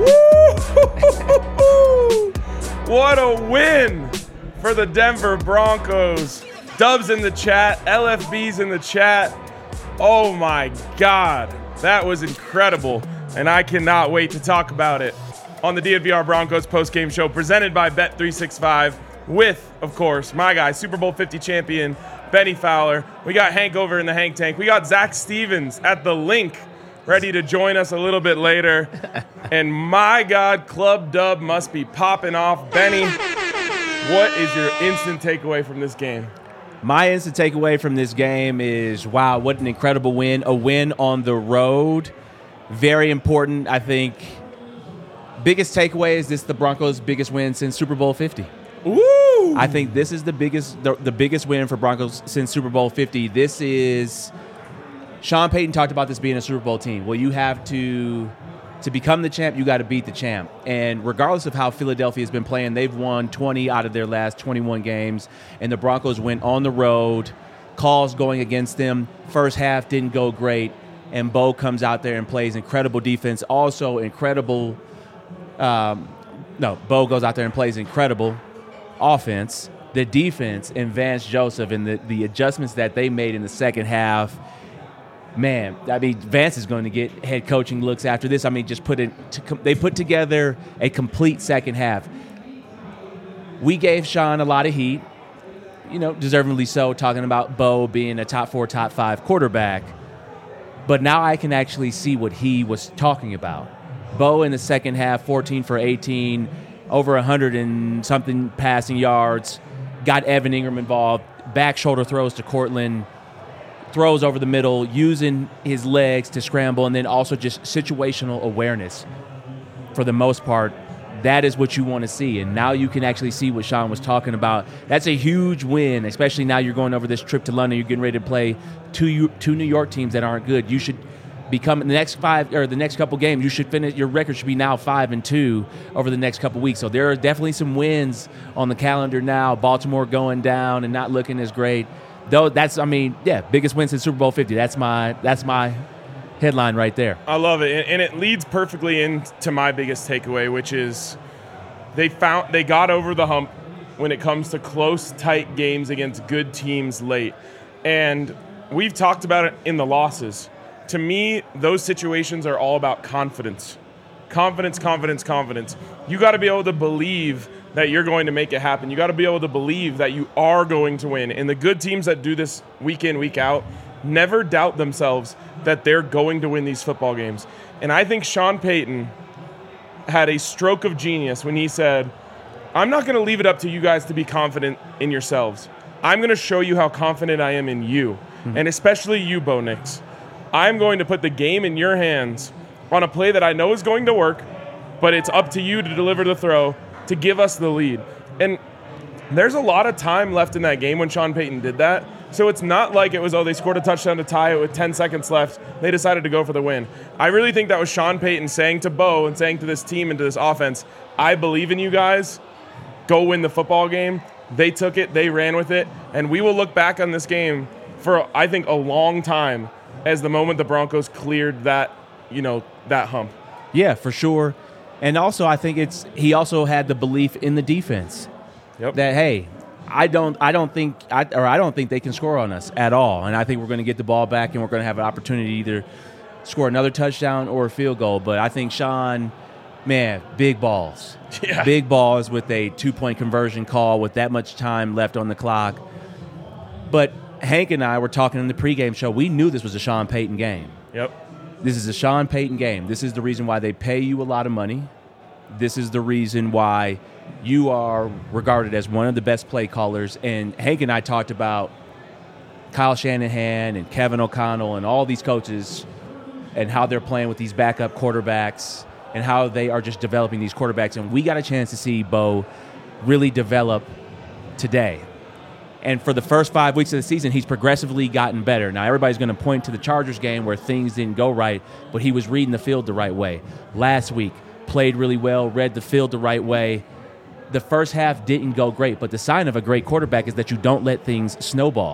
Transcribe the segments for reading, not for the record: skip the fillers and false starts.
What a win for the Denver Broncos. Dubs in the chat, LFB's in the chat. Oh my God, that was incredible, and I cannot wait to talk about it on the DNVR Broncos postgame show presented by Bet365 with, of course, my guy, Super Bowl 50 champion, Benny Fowler. We got Hank over in the Hank Tank. We got Zach Stevens at the link ready to join us a little bit later. And my God, Club Dub must be popping off. Benny, what is your instant takeaway from this game? My instant takeaway from this game is, wow, what an incredible win. A win on the road. Very important, I think. Biggest takeaway is this the Broncos' biggest win since Super Bowl 50. Ooh! I think this is the biggest win for Broncos since Super Bowl 50. This is Sean Payton talked about this being a Super Bowl team. Well, you have to become the champ, you got to beat the champ. And regardless of how Philadelphia has been playing, they've won 20 out of their last 21 games, and the Broncos went on the road, calls going against them. First half didn't go great, and Bo comes out there and plays incredible defense. Also incredible Bo goes out there and plays incredible offense. The defense and Vance Joseph and the adjustments that they made in the second half, man, I mean, Vance is going to get head coaching looks after this. I mean, they put together a complete second half. We gave Sean a lot of heat, deservingly so, talking about Bo being a top 4, top 5 quarterback. But now I can actually see what he was talking about. Bo in the second half, 14 for 18, over 100 and something passing yards, got Evan Ingram involved, back shoulder throws to Cortland, throws over the middle, using his legs to scramble, and then also just situational awareness for the most part. That is what you want to see, and now you can actually see what Sean was talking about. That's a huge win, especially now you're going over this trip to London. You're getting ready to play two New York teams that aren't good. You should become the next couple games. You should finish. Your record should be now 5-2 over the next couple weeks. So there are definitely some wins on the calendar now. Baltimore going down and not looking as great. Though biggest win since Super Bowl 50. That's my headline right there. I love it, and it leads perfectly into my biggest takeaway, which is they got over the hump when it comes to close, tight games against good teams late. And we've talked about it in the losses. To me, those situations are all about confidence. Confidence. You got to be able to believe that you're going to make it happen. You got to be able to believe that you are going to win. And the good teams that do this week in, week out, never doubt themselves that they're going to win these football games. And I think Sean Payton had a stroke of genius when he said, I'm not going to leave it up to you guys to be confident in yourselves. I'm going to show you how confident I am in you, and especially you, Bo Nix. I'm going to put the game in your hands on a play that I know is going to work, but it's up to you to deliver the throw to give us the lead. And there's a lot of time left in that game when Sean Payton did that. So it's not like it was, they scored a touchdown to tie it with 10 seconds left. They decided to go for the win. I really think that was Sean Payton saying to Bo and saying to this team and to this offense, I believe in you guys. Go win the football game. They took it. They ran with it. And we will look back on this game for, I think, a long time as the moment the Broncos cleared that hump. Yeah, for sure. And also, I think he also had the belief in the defense. Yep. That, hey, I don't think they can score on us at all. And I think we're going to get the ball back and we're going to have an opportunity to either score another touchdown or a field goal. But I think Sean, man, big balls. Yeah. Big balls with a 2-point conversion call with that much time left on the clock. But Hank and I were talking in the pregame show. We knew this was a Sean Payton game. Yep. This is a Sean Payton game. This is the reason why they pay you a lot of money. This is the reason why you are regarded as one of the best play callers. And Hank and I talked about Kyle Shanahan and Kevin O'Connell and all these coaches and how they're playing with these backup quarterbacks and how they are just developing these quarterbacks. And we got a chance to see Bo really develop today. And for the first 5 weeks of the season, he's progressively gotten better. Now, everybody's going to point to the Chargers game where things didn't go right, but he was reading the field the right way. Last week, played really well, read the field the right way. The first half didn't go great, but the sign of a great quarterback is that you don't let things snowball.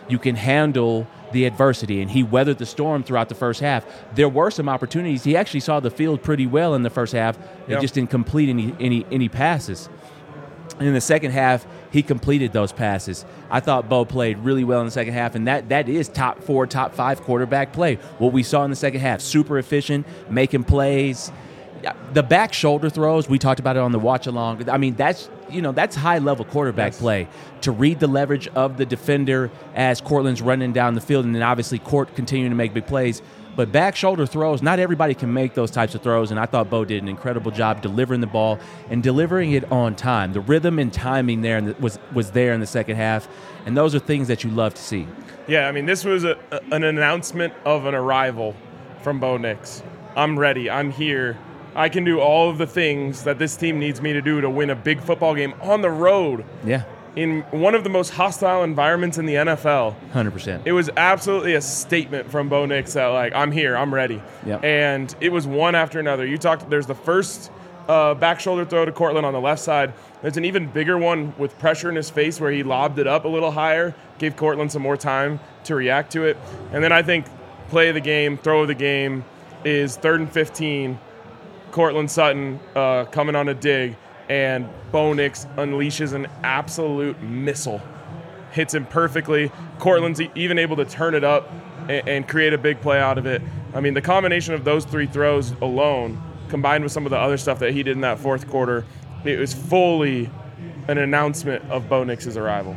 You can handle the adversity, and he weathered the storm throughout the first half. There were some opportunities. He actually saw the field pretty well in the first half. He just didn't complete any passes. And in the second half, he completed those passes. I thought Bo played really well in the second half, and that is top 4, top 5 quarterback play. What we saw in the second half, super efficient, making plays. The back shoulder throws, we talked about it on the watch along. I mean, that's high level quarterback play, to read the leverage of the defender as Courtland's running down the field, and then obviously Court continuing to make big plays. But back shoulder throws, not everybody can make those types of throws, and I thought Bo did an incredible job delivering the ball and delivering it on time. The rhythm and timing there was there in the second half, and those are things that you love to see. Yeah, I mean, this was an announcement of an arrival from Bo Nix. I'm ready. I'm here. I can do all of the things that this team needs me to do to win a big football game on the road. Yeah. In one of the most hostile environments in the NFL. 100%. It was absolutely a statement from Bo Nix that, like, I'm here, I'm ready. Yep. And it was one after another. There's the first back shoulder throw to Courtland on the left side. There's an even bigger one with pressure in his face where he lobbed it up a little higher, gave Courtland some more time to react to it. And then I think play of the game, throw of the game is 3rd and 15. Courtland Sutton coming on a dig, and Bo Nix unleashes an absolute missile. Hits him perfectly. Courtland's even able to turn it up and create a big play out of it. I mean, the combination of those 3 throws alone, combined with some of the other stuff that he did in that fourth quarter, it was fully an announcement of Bo Nix's arrival.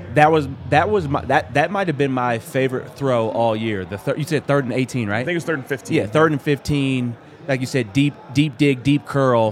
That might have been my favorite throw all year. You said 3rd and 18, right? I think it was 3rd and 15. Yeah, 3rd and 15. Like you said, deep dig, deep curl.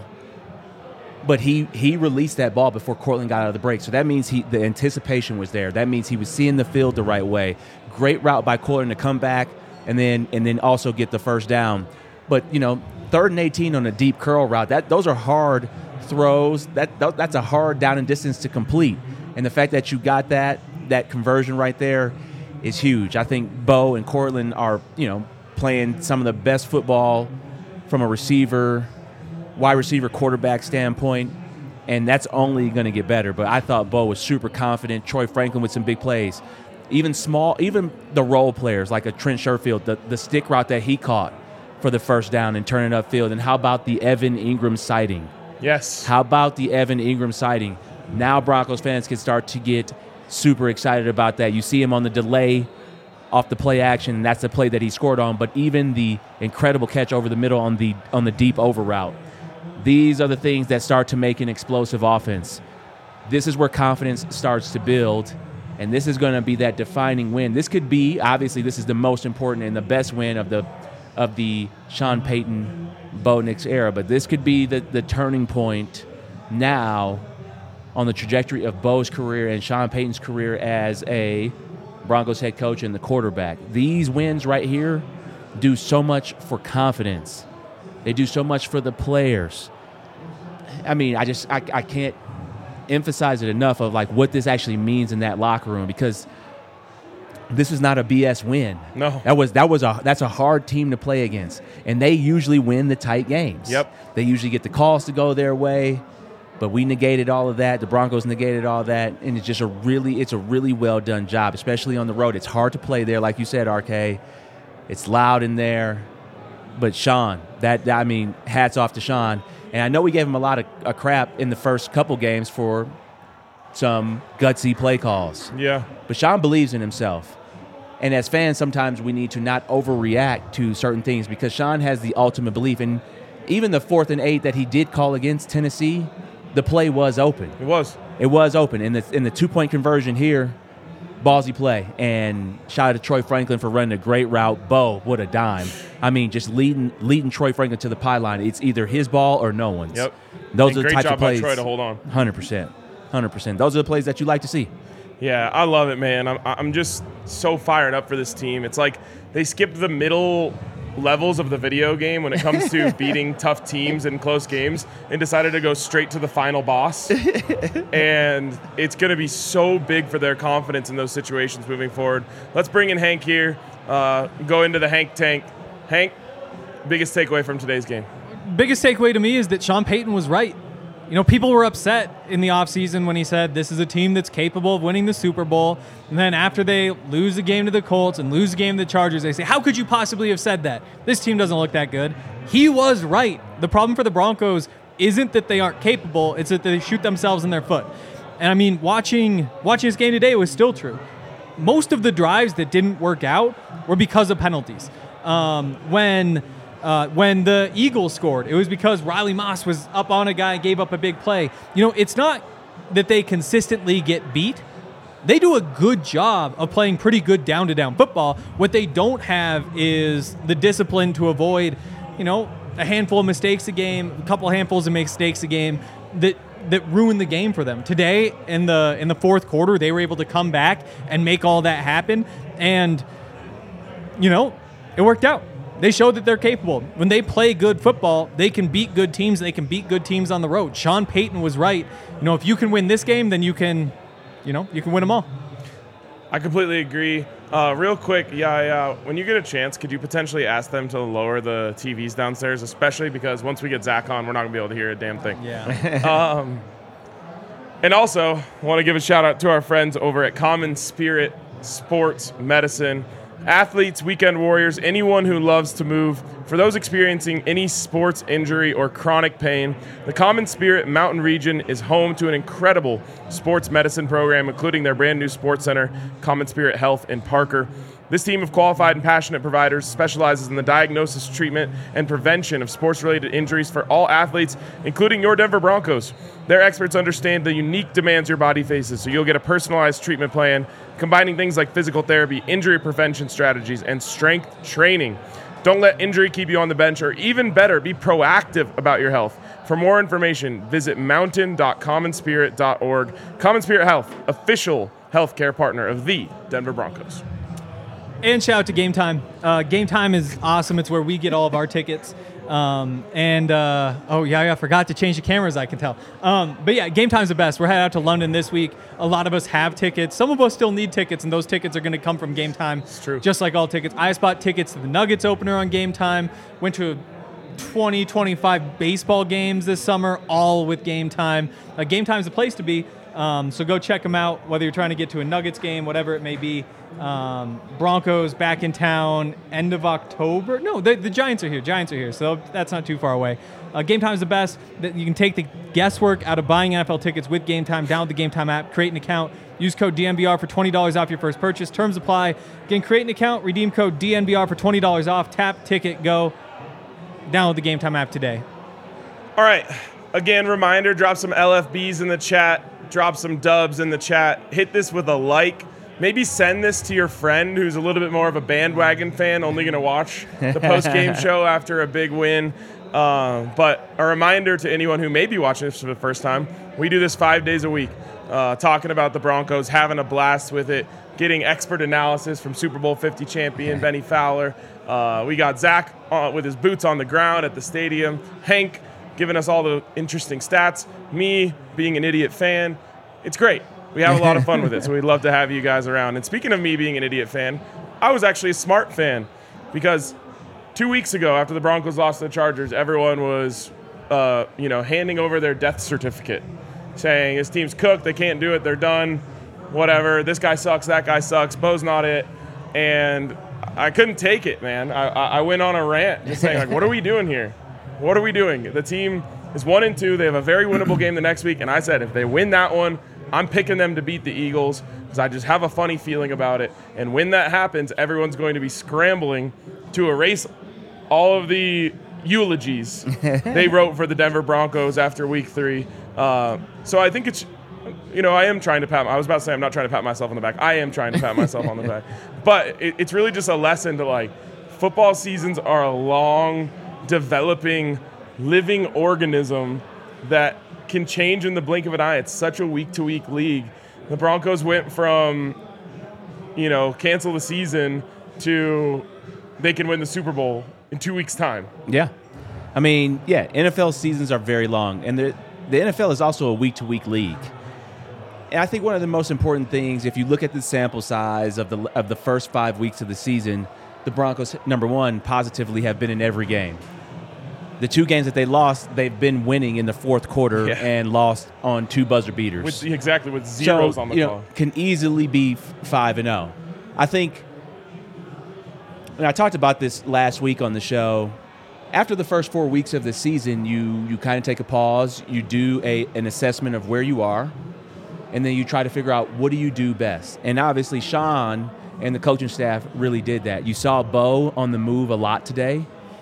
But he released that ball before Courtland got out of the break. So that means the anticipation was there. That means he was seeing the field the right way. Great route by Courtland to come back and then also get the first down. But 3rd and 18 on a deep curl route, those are hard throws. That's a hard down and distance to complete. And the fact that you got that conversion right there is huge. I think Bo and Courtland are playing some of the best football from a wide receiver, quarterback standpoint, and that's only going to get better. But I thought Bo was super confident. Troy Franklin with some big plays. Even the role players like a Trent Sherfield, the stick route that he caught for the first down and turning upfield. And how about the Evan Ingram sighting? Yes. How about the Evan Ingram sighting? Now Broncos fans can start to get super excited about that. You see him on the delay off the play action, and that's the play that he scored on. But even the incredible catch over the middle on the deep over route. These are the things that start to make an explosive offense. This is where confidence starts to build, and this is going to be that defining win. This could be, obviously, this is the most important and the best win of the Sean Payton, Bo Nix era, but this could be the turning point now on the trajectory of Bo's career and Sean Payton's career as a Broncos head coach and the quarterback. These wins right here do so much for confidence. They do so much for the players. I mean, I can't emphasize it enough of like what this actually means in that locker room, because this is not a BS win. No. That's a hard team to play against, and they usually win the tight games. Yep. They usually get the calls to go their way, but we negated all of that. The Broncos negated all that, and it's a really well done job, especially on the road. It's hard to play there, like you said, RK. It's loud in there. But Sean, hats off to Sean. And I know we gave him a lot of crap in the first couple games for some gutsy play calls. Yeah. But Sean believes in himself. And as fans, sometimes we need to not overreact to certain things, because Sean has the ultimate belief. And even the 4th and 8 that he did call against Tennessee, the play was open. It was open. In the 2-point conversion here, ballsy play, and shout out to Troy Franklin for running a great route. Bo, what a dime. I mean, just leading Troy Franklin to the pylon. It's either his ball or no one's. Yep. Those are the types of plays. Great job by Troy to hold on. 100%. Those are the plays that you like to see. Yeah, I love it, man. I'm just so fired up for this team. It's like they skipped the middle levels of the video game when it comes to beating tough teams in close games and decided to go straight to the final boss. And it's going to be so big for their confidence in those situations moving forward. Let's bring in Hank here, go into the Hank tank. Hank, biggest takeaway from today's game? Biggest takeaway to me is that Sean Payton was right. people were upset in the offseason when he said this is a team that's capable of winning the Super Bowl. And then after they lose the game to the Colts and lose the game to the Chargers, they say, how could you possibly have said that? This team doesn't look that good. He was right. The problem for the Broncos isn't that they aren't capable, it's that they shoot themselves in their foot. And I mean, watching this game today was still true. Most of the drives that didn't work out were because of penalties. When the Eagles scored, it was because Riley Moss was up on a guy and gave up a big play. It's not that they consistently get beat. They do a good job of playing pretty good down-to-down football. What they don't have is the discipline to avoid, a handful of mistakes a game, a couple handfuls of mistakes a game that ruin the game for them. Today, in the fourth quarter, they were able to come back and make all that happen. And, it worked out. They showed that they're capable. When they play good football, they can beat good teams. They can beat good teams on the road. Sean Payton was right. If you can win this game, then you can win them all. I completely agree. Real quick, when you get a chance, could you potentially ask them to lower the TVs downstairs, especially because once we get Zach on, we're not going to be able to hear a damn thing. Yeah. And also, I want to give a shout-out to our friends over at Common Spirit Sports Medicine. Athletes, weekend warriors, anyone who loves to move. For those experiencing any sports injury or chronic pain, the Common Spirit Mountain Region is home to an incredible sports medicine program, including their brand new sports center, Common Spirit Health in Parker. This team of qualified and passionate providers specializes in the diagnosis, treatment, and prevention of sports-related injuries for all athletes, including your Denver Broncos. Their experts understand the unique demands your body faces, so you'll get a personalized treatment plan, combining things like physical therapy, injury prevention strategies, and strength training. Don't let injury keep you on the bench, or even better, be proactive about your health. For more information, visit mountain.commonspirit.org. Common Spirit Health, official healthcare partner of the Denver Broncos. And shout out to Game Time. Game Time is awesome. It's where we get all of our tickets. I forgot to change the cameras, I can tell. But yeah, Game Time's the best. We're heading out to London this week. A lot of us have tickets. Some of us still need tickets, and those tickets are going to come from Game Time. It's true. Just like all tickets. I bought tickets to the Nuggets opener on Game Time. Went to 25 baseball games this summer, all with Game Time. Game Time's the place to be. So go check them out, whether you're trying to get to a Nuggets game, whatever it may be. Broncos back in town end of October. No, the Giants are here, so that's not too far away. Game Time is the best. You can take the guesswork out of buying NFL tickets with Game Time. Download the Game Time app, create an account, use code DNVR for $20 off your first purchase. Terms apply. Again, create an account, redeem code DNVR for $20 off. Tap, ticket, go. Download the Game Time app today. All right. Again, reminder, drop some LFBs in the chat, drop some dubs in the chat. Hit this with a like. Maybe send this to your friend who's a little bit more of a bandwagon fan, only going to watch the post-game show after a big win. But a reminder to anyone who may be watching this for the first time, we do this 5 days a week, talking about the Broncos, having a blast with it, getting expert analysis from Super Bowl 50 champion Benny Fowler. We got Zach with his boots on the ground at the stadium, Hank giving us all the interesting stats, me being an idiot fan. It's great. We have a lot of fun with it, so we'd love to have you guys around. And speaking of me being an idiot fan, I was actually a smart fan because 2 weeks ago, after the Broncos lost to the Chargers, everyone was, handing over their death certificate, saying this team's cooked, they can't do it, they're done, whatever. This guy sucks, that guy sucks, Bo's not it, and I couldn't take it, man. I went on a rant, just saying, like, what are we doing here? What are we doing? The team is 1-2. They have a very winnable game the next week, and I said if they win that one, I'm picking them to beat the Eagles because I just have a funny feeling about it. And when that happens, everyone's going to be scrambling to erase all of the eulogies they wrote for the Denver Broncos after Week 3. So I think it's, I am trying to I was about to say I'm not trying to pat myself on the back. I am trying to pat myself on the back. But it's really just a lesson to, like, football seasons are a long, developing, living organism that can change in the blink of an eye. It's such a week-to-week league. The Broncos went from, cancel the season to they can win the Super Bowl in 2 weeks' time. Yeah. I mean, NFL seasons are very long, and the NFL is also a week-to-week league. And I think one of the most important things, if you look at the sample size of the first 5 weeks of the season, the Broncos, number one, positively have been in every game. The 2 games that they lost, they've been winning in the fourth quarter Yeah. and lost on 2 buzzer beaters. with zeros So, on the call. can easily be 5-0. I think, and I talked about this last week on the show. After the first 4 weeks of the season, you kind of take a pause. You do an assessment of where you are, and then you try to figure out what do you do best. And obviously, Sean and the coaching staff really did that. You saw Bo on the move a lot today.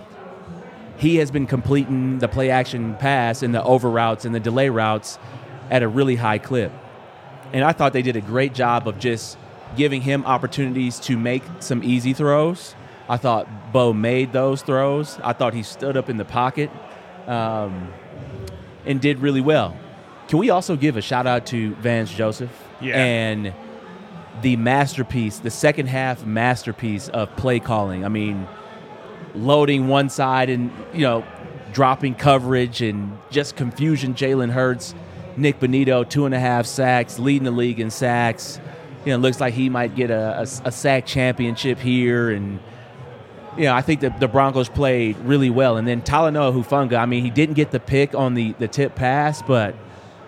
He has been completing the play-action pass and the over routes and the delay routes at a really high clip. And I thought they did a great job of just giving him opportunities to make some easy throws. I thought Bo made those throws. I thought he stood up in the pocket and did really well. Can we also give a shout-out to Vance Joseph? Yeah. And the masterpiece, the second half masterpiece of play calling. I mean, loading one side and, dropping coverage and just confusion. Jalen Hurts, Nick Bonito, 2.5 sacks, leading the league in sacks. Looks like he might get a sack championship here. And, I think that the Broncos played really well. And then Talanoa Hufanga, I mean, he didn't get the pick on the tip pass, but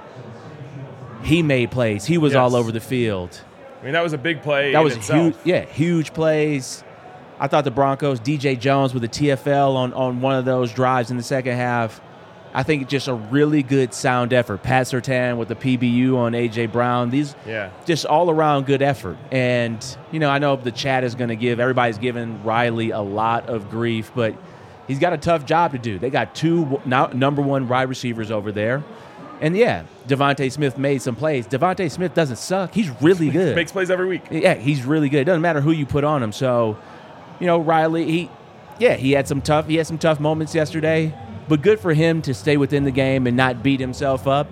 he made plays. He was all over the field. I mean, that was a big play. That in was itself. huge. Yeah, huge plays. I thought the Broncos, DJ Jones with a TFL on one of those drives in the second half. I think just a really good sound effort. Pat Surtain with the PBU on A.J. Brown. These just all-around good effort. And, I know the chat is going to everybody's giving Riley a lot of grief, but he's got a tough job to do. They got 2 number 1 wide receivers over there. And, Devontae Smith made some plays. Devontae Smith doesn't suck. He's really good. Makes plays every week. Yeah, he's really good. It doesn't matter who you put on him. So, Riley, he had some tough moments yesterday, but good for him to stay within the game and not beat himself up.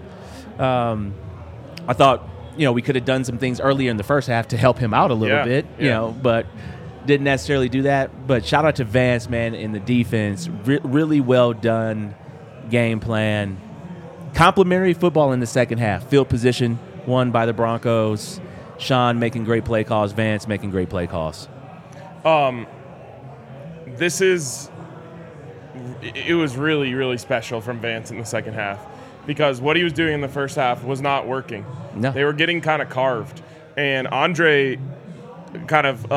I thought, we could have done some things earlier in the first half to help him out a little bit, but didn't necessarily do that. But shout out to Vance, man, in the defense. Really well done game plan. Complimentary football in the second half. Field position won by the Broncos. Sean making great play calls. Vance making great play calls. It was really, really special from Vance in the second half because what he was doing in the first half was not working. No. They were getting kind of carved. And Andre kind of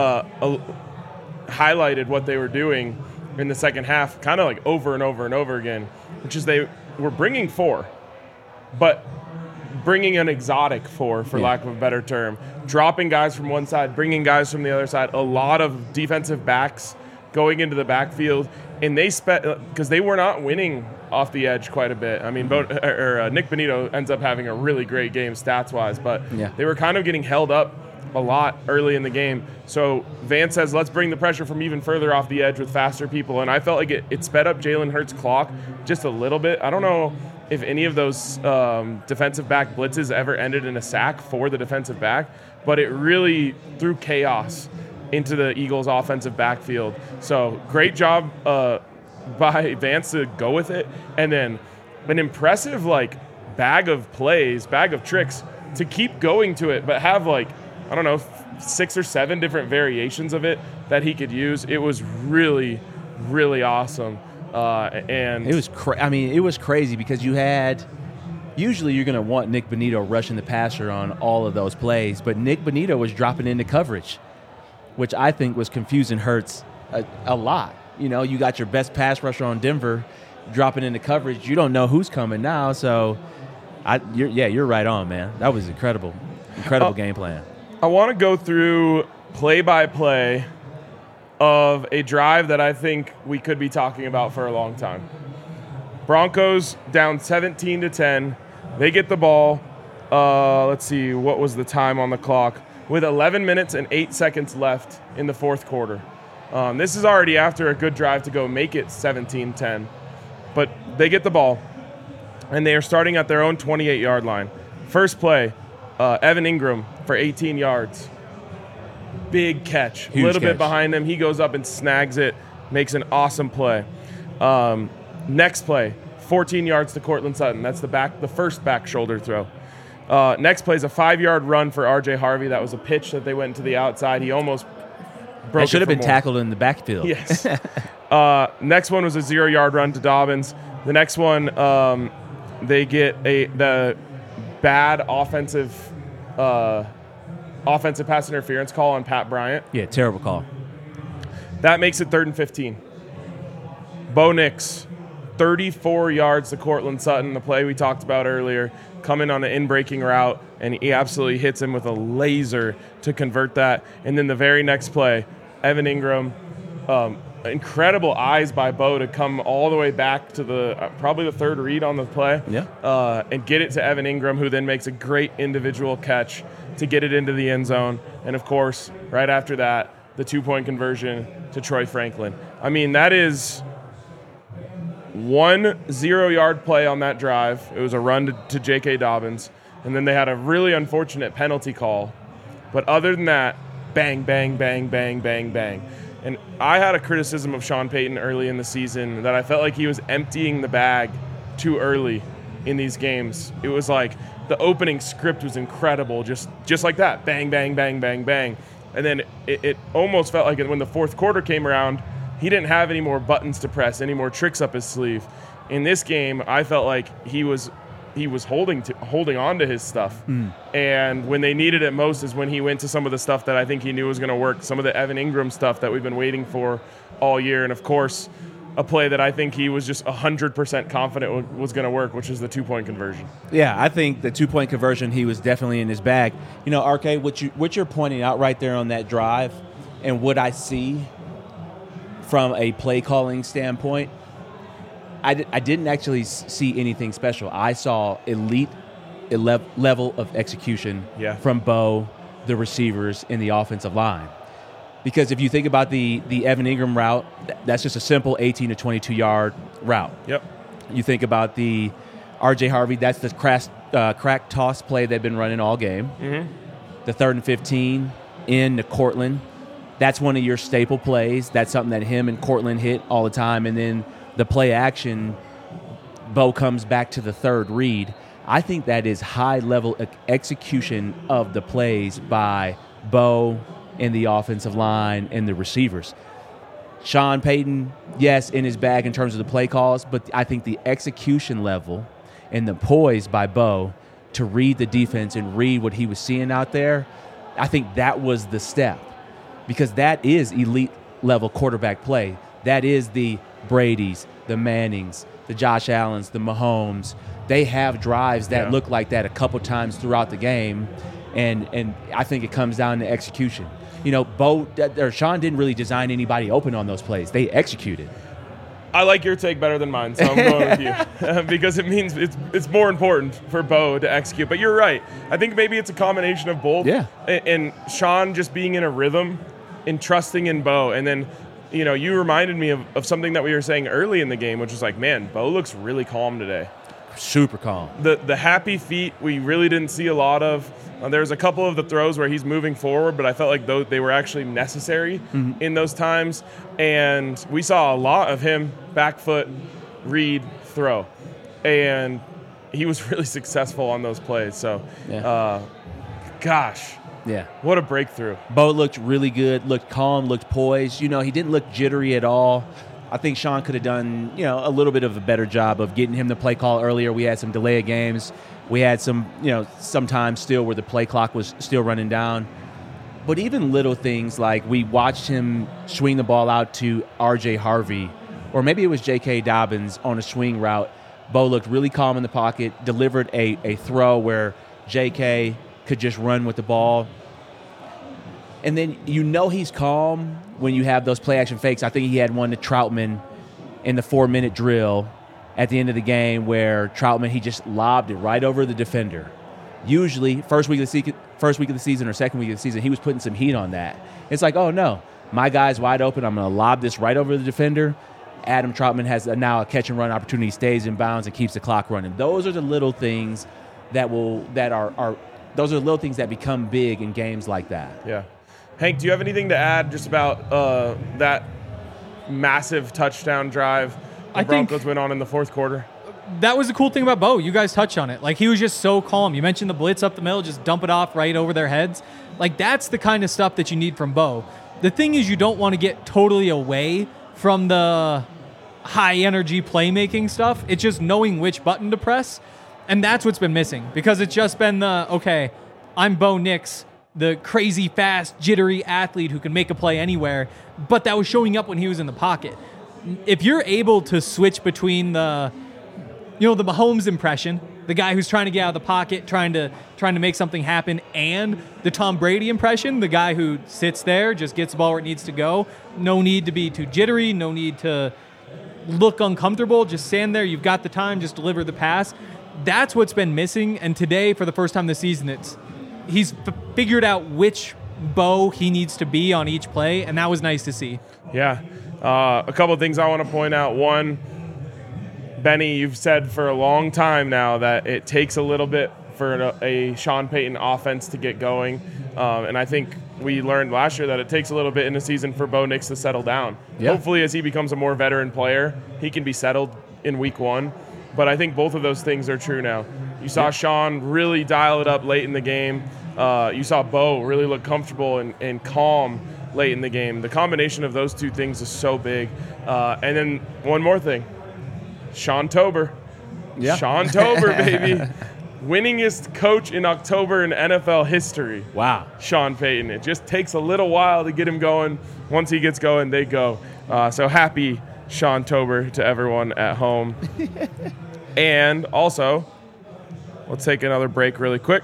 highlighted what they were doing in the second half kind of like over and over and over again, which is they were bringing 4, but bringing an exotic 4, for lack of a better term, dropping guys from one side, bringing guys from the other side, a lot of defensive backs going into the backfield, and because they were not winning off the edge quite a bit. I mean, Nick Bonito ends up having a really great game stats-wise, but they were kind of getting held up a lot early in the game. So Vance says, let's bring the pressure from even further off the edge with faster people, and I felt like it sped up Jalen Hurts' clock just a little bit. I don't know if any of those defensive back blitzes ever ended in a sack for the defensive back, but it really threw chaos into the Eagles' offensive backfield. So great job by Vance to go with it, and then an impressive bag of plays, bag of tricks to keep going to it, but have 6 or 7 different variations of it that he could use. It was really, really awesome. And it was it was crazy because usually you're going to want Nick Bonito rushing the passer on all of those plays, but Nick Bonito was dropping into coverage, which I think was confusing Hurts a lot. You got your best pass rusher on Denver dropping into coverage. You don't know who's coming now, so you're right on, man. That was incredible game plan. I want to go through play-by-play of a drive that I think we could be talking about for a long time. Broncos down 17-10. They get the ball. Let's see, what was the time on the clock? With 11 minutes and 8 seconds left in the fourth quarter. This is already after a good drive to go make it 17-10. But they get the ball, and they are starting at their own 28-yard line. First play, Evan Ingram for 18 yards. Big catch. Huge a little catch. bit behind him. He goes up and snags it, makes an awesome play. Next play, 14 yards to Cortland Sutton. That's the first back shoulder throw. Next play is a 5-yard run for R.J. Harvey. That was a pitch that they went to the outside. He almost broke That should it have for been more. tackled in the backfield. Yes. Next one was a 0-yard run to Dobbins. The next one, they get the bad offensive pass interference call on Pat Bryant. Yeah, terrible call. That makes it 3rd and 15. Bo Nix, 34 yards to Cortland Sutton, the play we talked about earlier, coming on an in-breaking route, and he absolutely hits him with a laser to convert that. And then the very next play, Evan Ingram, incredible eyes by Bo to come all the way back to the probably the 3rd read on the play, and get it to Evan Ingram, who then makes a great individual catch to get it into the end zone. And, of course, right after that, the 2-point conversion to Troy Franklin. I mean, that is 1 0-yard play on that drive. It was a run to J.K. Dobbins, and then they had a really unfortunate penalty call. But other than that, bang, bang, bang, bang, bang, bang. And I had a criticism of Sean Payton early in the season that I felt like he was emptying the bag too early in these games. It was like the opening script was incredible, just like that, bang, bang, bang, bang, bang. And then it almost felt like when the fourth quarter came around, he didn't have any more buttons to press, any more tricks up his sleeve. In this game, I felt like he was holding on to his stuff. And when they needed it most is when he went to some of the stuff that I think he knew was going to work, some of the Evan Ingram stuff that we've been waiting for all year. And, of course, a play that I think he was just 100% confident was going to work, which is the 2-point conversion. Yeah, I think the 2-point conversion, he was definitely in his bag. You know, RK, what you're pointing out right there on that drive and what I see from a play calling standpoint, I didn't actually see anything special. I saw elite level of execution from Bo, the receivers, and the offensive line. Because if you think about the Evan Ingram route, that's just a simple 18 to 22-yard route. Yep. You think about the R.J. Harvey, that's the crack toss play they've been running all game. Mm-hmm. The 3rd and 15 into Cortland, that's one of your staple plays. That's something that him and Cortland hit all the time. And then the play action, Bo comes back to the 3rd read. I think that is high-level execution of the plays by Bo and the offensive line and the receivers. Sean Payton, yes, in his bag in terms of the play calls, but I think the execution level and the poise by Bo to read the defense and read what he was seeing out there, I think that was the step. Because that is elite-level quarterback play. That is the Brady's, the Mannings, the Josh Allens, the Mahomes. They have drives that look like that a couple times throughout the game, and I think it comes down to execution. You know, Sean didn't really design anybody open on those plays. They executed. I like your take better than mine, so I'm going with you because it means it's more important for Bo to execute. But you're right. I think maybe it's a combination of both. Yeah. And Sean just being in a rhythm and trusting in Bo. And then, you know, you reminded me of something that we were saying early in the game, which was like, man, Bo looks really calm today. Super calm. The happy feet we really didn't see a lot of. There was a couple of the throws where he's moving forward, but I felt like they were actually necessary in those times. And we saw a lot of him back foot, read, throw. And he was really successful on those plays. So, gosh. Yeah. What a breakthrough. Bo looked really good, looked calm, looked poised. You know, he didn't look jittery at all. I think Sean could have done, you know, a little bit of a better job of getting him the play call earlier. We had some delay of games. We had some, you know, sometimes still where the play clock was still running down. But even little things like we watched him swing the ball out to R.J. Harvey, or maybe it was J.K. Dobbins on a swing route. Bo looked really calm in the pocket, delivered a throw where J.K. could just run with the ball. And then you know he's calm when you have those play-action fakes. I think he had one to Troutman in the 4-minute drill at the end of the game where Troutman, he just lobbed it right over the defender. Usually, first week of the season or second week of the season, he was putting some heat on that. It's like, oh, no, my guy's wide open. I'm going to lob this right over the defender. Adam Troutman has now a catch-and-run opportunity, stays in bounds, and keeps the clock running. Those are the little things that those are the little things that become big in games like that. Yeah. Hank, do you have anything to add just about that massive touchdown drive the Broncos went on in the fourth quarter? That was the cool thing about Bo. You guys touched on it. Like, he was just so calm. You mentioned the blitz up the middle, just dump it off right over their heads. Like, that's the kind of stuff that you need from Bo. The thing is, you don't want to get totally away from the high-energy playmaking stuff. It's just knowing which button to press, and that's what's been missing because it's just been okay, I'm Bo Nix, the crazy, fast, jittery athlete who can make a play anywhere, but that was showing up when he was in the pocket. If you're able to switch between the Mahomes impression, the guy who's trying to get out of the pocket, trying to make something happen, and the Tom Brady impression, the guy who sits there, just gets the ball where it needs to go. No need to be too jittery, no need to look uncomfortable, just stand there, you've got the time, just deliver the pass. That's what's been missing, and today, for the first time this season, he's figured out which Bo he needs to be on each play, and that was nice to see. Yeah. A couple of things I want to point out. One, Benny, you've said for a long time now that it takes a little bit for a Sean Payton offense to get going. And I think we learned last year that it takes a little bit in the season for Bo Nix to settle down. Yeah. Hopefully, as he becomes a more veteran player, he can be settled in week one. But I think both of those things are true now. You saw Sean really dial it up late in the game. You saw Bo really look comfortable and calm late in the game. The combination of those two things is so big. And then one more thing. Sean Tober. Yeah. Sean Tober, baby. Winningest coach in October in NFL history. Wow. Sean Payton. It just takes a little while to get him going. Once he gets going, they go. So happy Sean Tober to everyone at home. And also, let's take another break really quick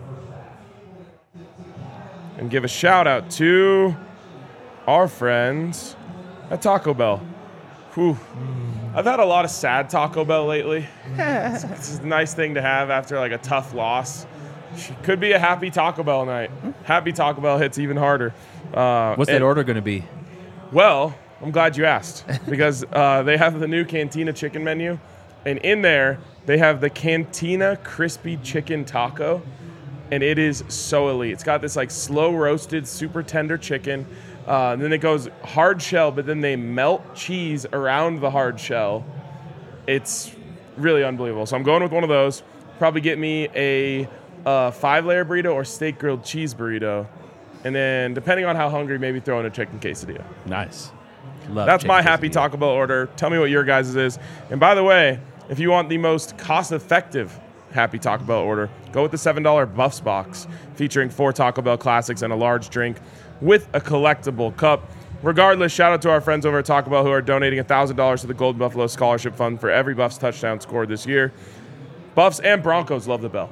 and give a shout out to our friends at Taco Bell. Whew. I've had a lot of sad Taco Bell lately. It's a nice thing to have after like a tough loss. Could be a happy Taco Bell night. Happy Taco Bell hits even harder. What's that order going to be? Well, I'm glad you asked because they have the new Cantina chicken menu. And in there, they have the Cantina Crispy Chicken Taco. And it is so elite. It's got this like slow roasted, super tender chicken. Then it goes hard shell, but then they melt cheese around the hard shell. It's really unbelievable. So I'm going with one of those. Probably get me a 5-layer burrito or steak grilled cheese burrito. And then depending on how hungry, maybe throw in a chicken quesadilla. Nice. That's my happy Taco Bell order. Tell me what your guys' is. And by the way, if you want the most cost-effective happy Taco Bell order, go with the $7 Buffs box featuring 4 Taco Bell classics and a large drink with a collectible cup. Regardless, shout out to our friends over at Taco Bell who are donating $1,000 to the Golden Buffalo Scholarship Fund for every Buffs touchdown scored this year. Buffs and Broncos love the bell.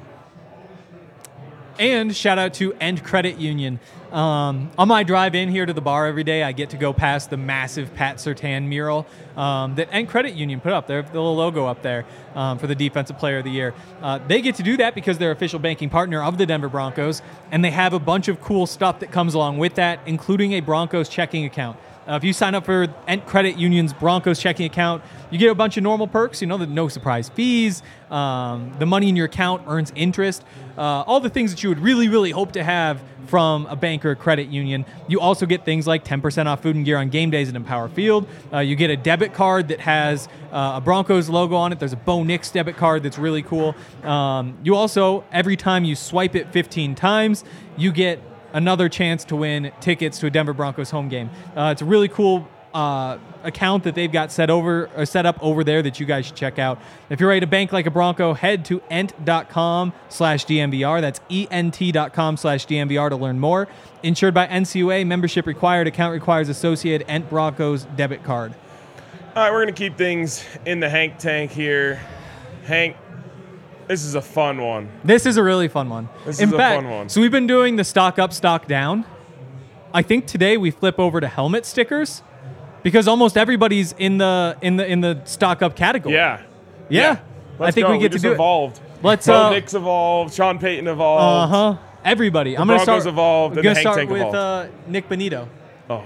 And shout out to End Credit Union. On my drive in here to the bar every day, I get to go past the massive Pat Surtain mural that End Credit Union put up there, the little logo up there for the Defensive Player of the Year. They get to do that because they're official banking partner of the Denver Broncos, and they have a bunch of cool stuff that comes along with that, including a Broncos checking account. If you sign up for End Credit Union's Broncos checking account, you get a bunch of normal perks, the no surprise fees, the money in your account earns interest, all the things that you would really, really hope to have from a bank or a credit union. You also get things like 10% off food and gear on game days at Empower Field. You get a debit card that has a Broncos logo on it. There's a Bo Nix debit card that's really cool. You also, every time you swipe it 15 times, you get another chance to win tickets to a Denver Broncos home game. It's a really cool account that they've got set up over there that you guys should check out. If you're ready to bank like a Bronco, head to ent.com/DNVR. That's ent.com/DNVR to learn more. Insured by NCUA, membership required, account requires associated Ent Broncos debit card. All right, we're going to keep things in the Hank tank here. Hank, this is a fun one. This is a really fun one. In fact, so we've been doing the stock up, stock down. I think today we flip over to helmet stickers because almost everybody's in the stock up category. Yeah. I think we get to do evolved. Let's Bo Nix evolved. Sean Payton evolved. Everybody. I'm going to start evolved. I'm going to start with Nick Bonito. Oh.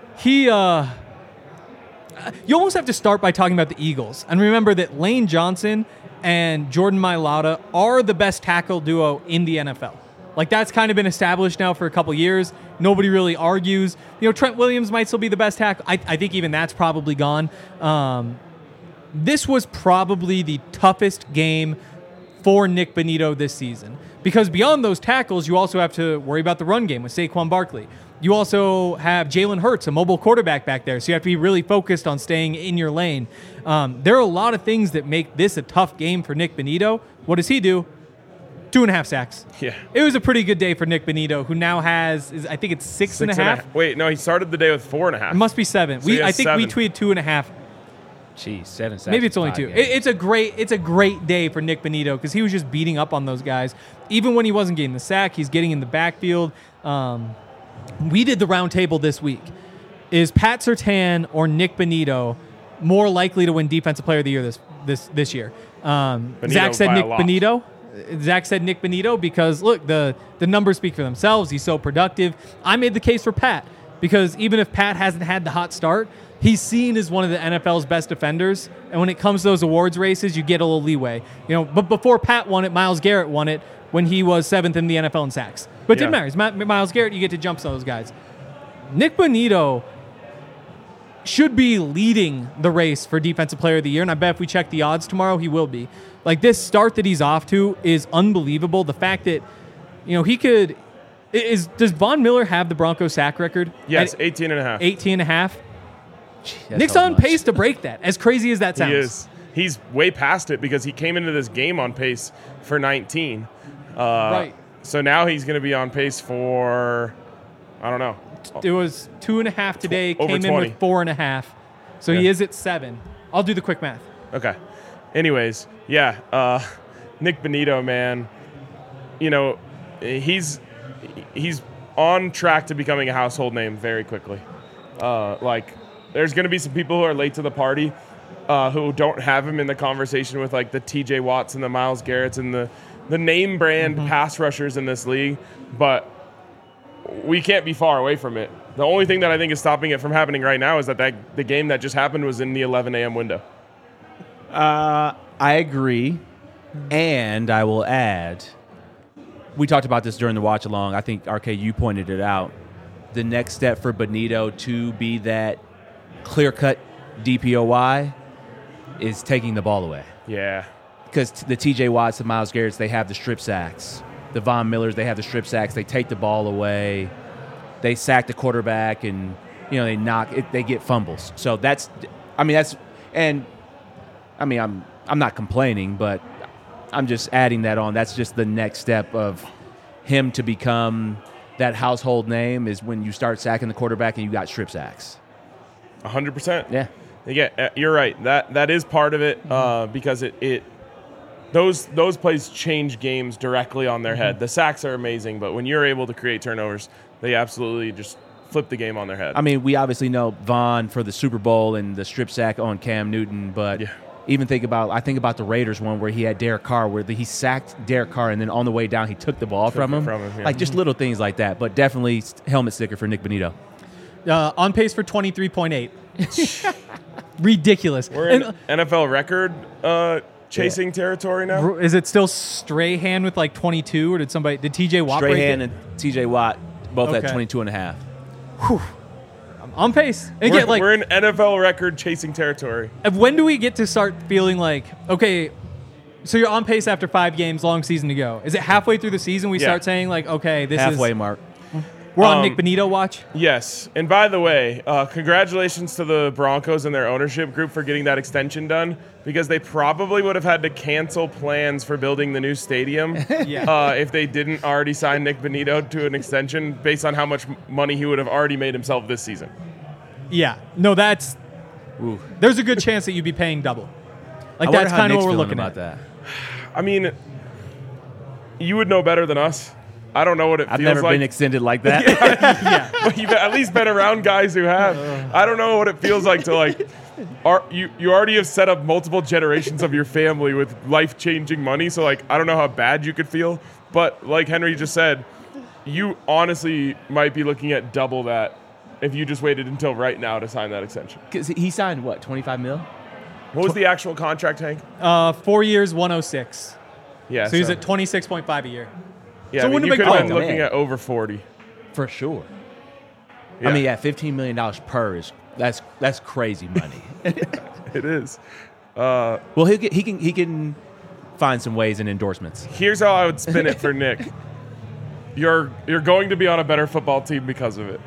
You almost have to start by talking about the Eagles. And remember that Lane Johnson and Jordan Mailata are the best tackle duo in the NFL. Like, that's kind of been established now for a couple years. Nobody really argues. Trent Williams might still be the best tackle. I think even that's probably gone. This was probably the toughest game for Nick Bonito this season. Because beyond those tackles, you also have to worry about the run game with Saquon Barkley. You also have Jalen Hurts, a mobile quarterback back there, so you have to be really focused on staying in your lane. There are a lot of things that make this a tough game for Nick Bonitto. What does he do? 2.5 sacks. Yeah. It was a pretty good day for Nick Bonitto, who now has, I think it's 6.5. Wait, no, he started the day with 4.5. It must be 7. So I think 7. we tweeted 2.5. Jeez, 7 sacks. Maybe it's only 2. Yeah. It's a great day for Nick Bonitto because he was just beating up on those guys. Even when he wasn't getting the sack, he's getting in the backfield. We did the round table this week. Is Pat Surtain or Nick Bonitto more likely to win Defensive Player of the Year this year? Zach said Nick Bonitto. Zach said Nick Bonitto because, look, the numbers speak for themselves. He's so productive. I made the case for Pat because even if Pat hasn't had the hot start, he's seen as one of the NFL's best defenders. And when it comes to those awards races, you get a little leeway. But before Pat won it, Myles Garrett won it when he was 7th in the NFL in sacks. But it didn't matter. It's Myles Garrett. You get to jump some of those guys. Nick Bonitto should be leading the race for Defensive Player of the Year, and I bet if we check the odds tomorrow, he will be. Like, this start that he's off to is unbelievable. The fact that, he could – does Von Miller have the Broncos sack record? Yes, 18.5. 18.5? Nick's on pace to break that, as crazy as that sounds. He is. He's way past it because he came into this game on pace for 19. Right. So now he's going to be on pace for, I don't know. It was 2.5 today, Over came 20. in with 4.5. So he is at 7. I'll do the quick math. Okay. Anyways, Nick Bonitto, man, he's on track to becoming a household name very quickly. There's going to be some people who are late to the party who don't have him in the conversation with, like, the TJ Watts and the Myles Garretts and the name brand pass rushers in this league, but we can't be far away from it. The only thing that I think is stopping it from happening right now is that the game that just happened was in the 11 a.m. window. I agree, and I will add, we talked about this during the watch-along. I think, RK, you pointed it out. The next step for Bonitto to be that clear-cut DPOY is taking the ball away. Yeah. Because the TJ Watts, the Myles Garretts, they have the strip sacks. The Von Millers, they have the strip sacks. They take the ball away. They sack the quarterback, and they knock it. They get fumbles. So I'm not complaining, but I'm just adding that on. That's just the next step of him to become that household name is when you start sacking the quarterback and you got strip sacks. 100%. Yeah. Yeah, you're right. That is part of it because those plays change games directly on their head. The sacks are amazing, but when you're able to create turnovers, they absolutely just flip the game on their head. I mean, we obviously know Von for the Super Bowl and the strip sack on Cam Newton, but even think about the Raiders one where he had Derek Carr, where he sacked Derek Carr, and then on the way down he took the ball from him. Yeah. Like just little things like that, but definitely helmet sticker for Nick Bonitto. On pace for 23.8. Ridiculous. We're in NFL record chasing territory now. Is it still Strahan with like 22, or did TJ Watt break it? Strahan and TJ Watt both at 22.5. Whew. I'm on pace. And We're in NFL record chasing territory. When do we get to start feeling like, okay, so you're on pace after 5 games, long season to go? Is it halfway through the season we start saying like, okay, this halfway is mark? We're on Nick Bonitto watch? Yes. And by the way, congratulations to the Broncos and their ownership group for getting that extension done, because they probably would have had to cancel plans for building the new stadium if they didn't already sign Nick Bonitto to an extension based on how much money he would have already made himself this season. Yeah. No, there's a good chance that you'd be paying double. Like, that's kind of what we're looking at. That. I mean, you would know better than us. I don't know what it feels like. I've never been extended like that. But you've at least been around guys who have. I don't know what it feels like to you already have set up multiple generations of your family with life-changing money. So I don't know how bad you could feel. But like Henry just said, you honestly might be looking at double that if you just waited until right now to sign that extension. Because he signed what, $25 million? What was the actual contract, Hank? 4 years, 106. Yeah. So he's at 26.5 a year. Yeah, so you could have been looking at over 40. For sure. Yeah. I mean, $15 million per that's crazy money. It is. Well, he can find some ways in endorsements. Here's how I would spin it for Nick. you're going to be on a better football team because of it.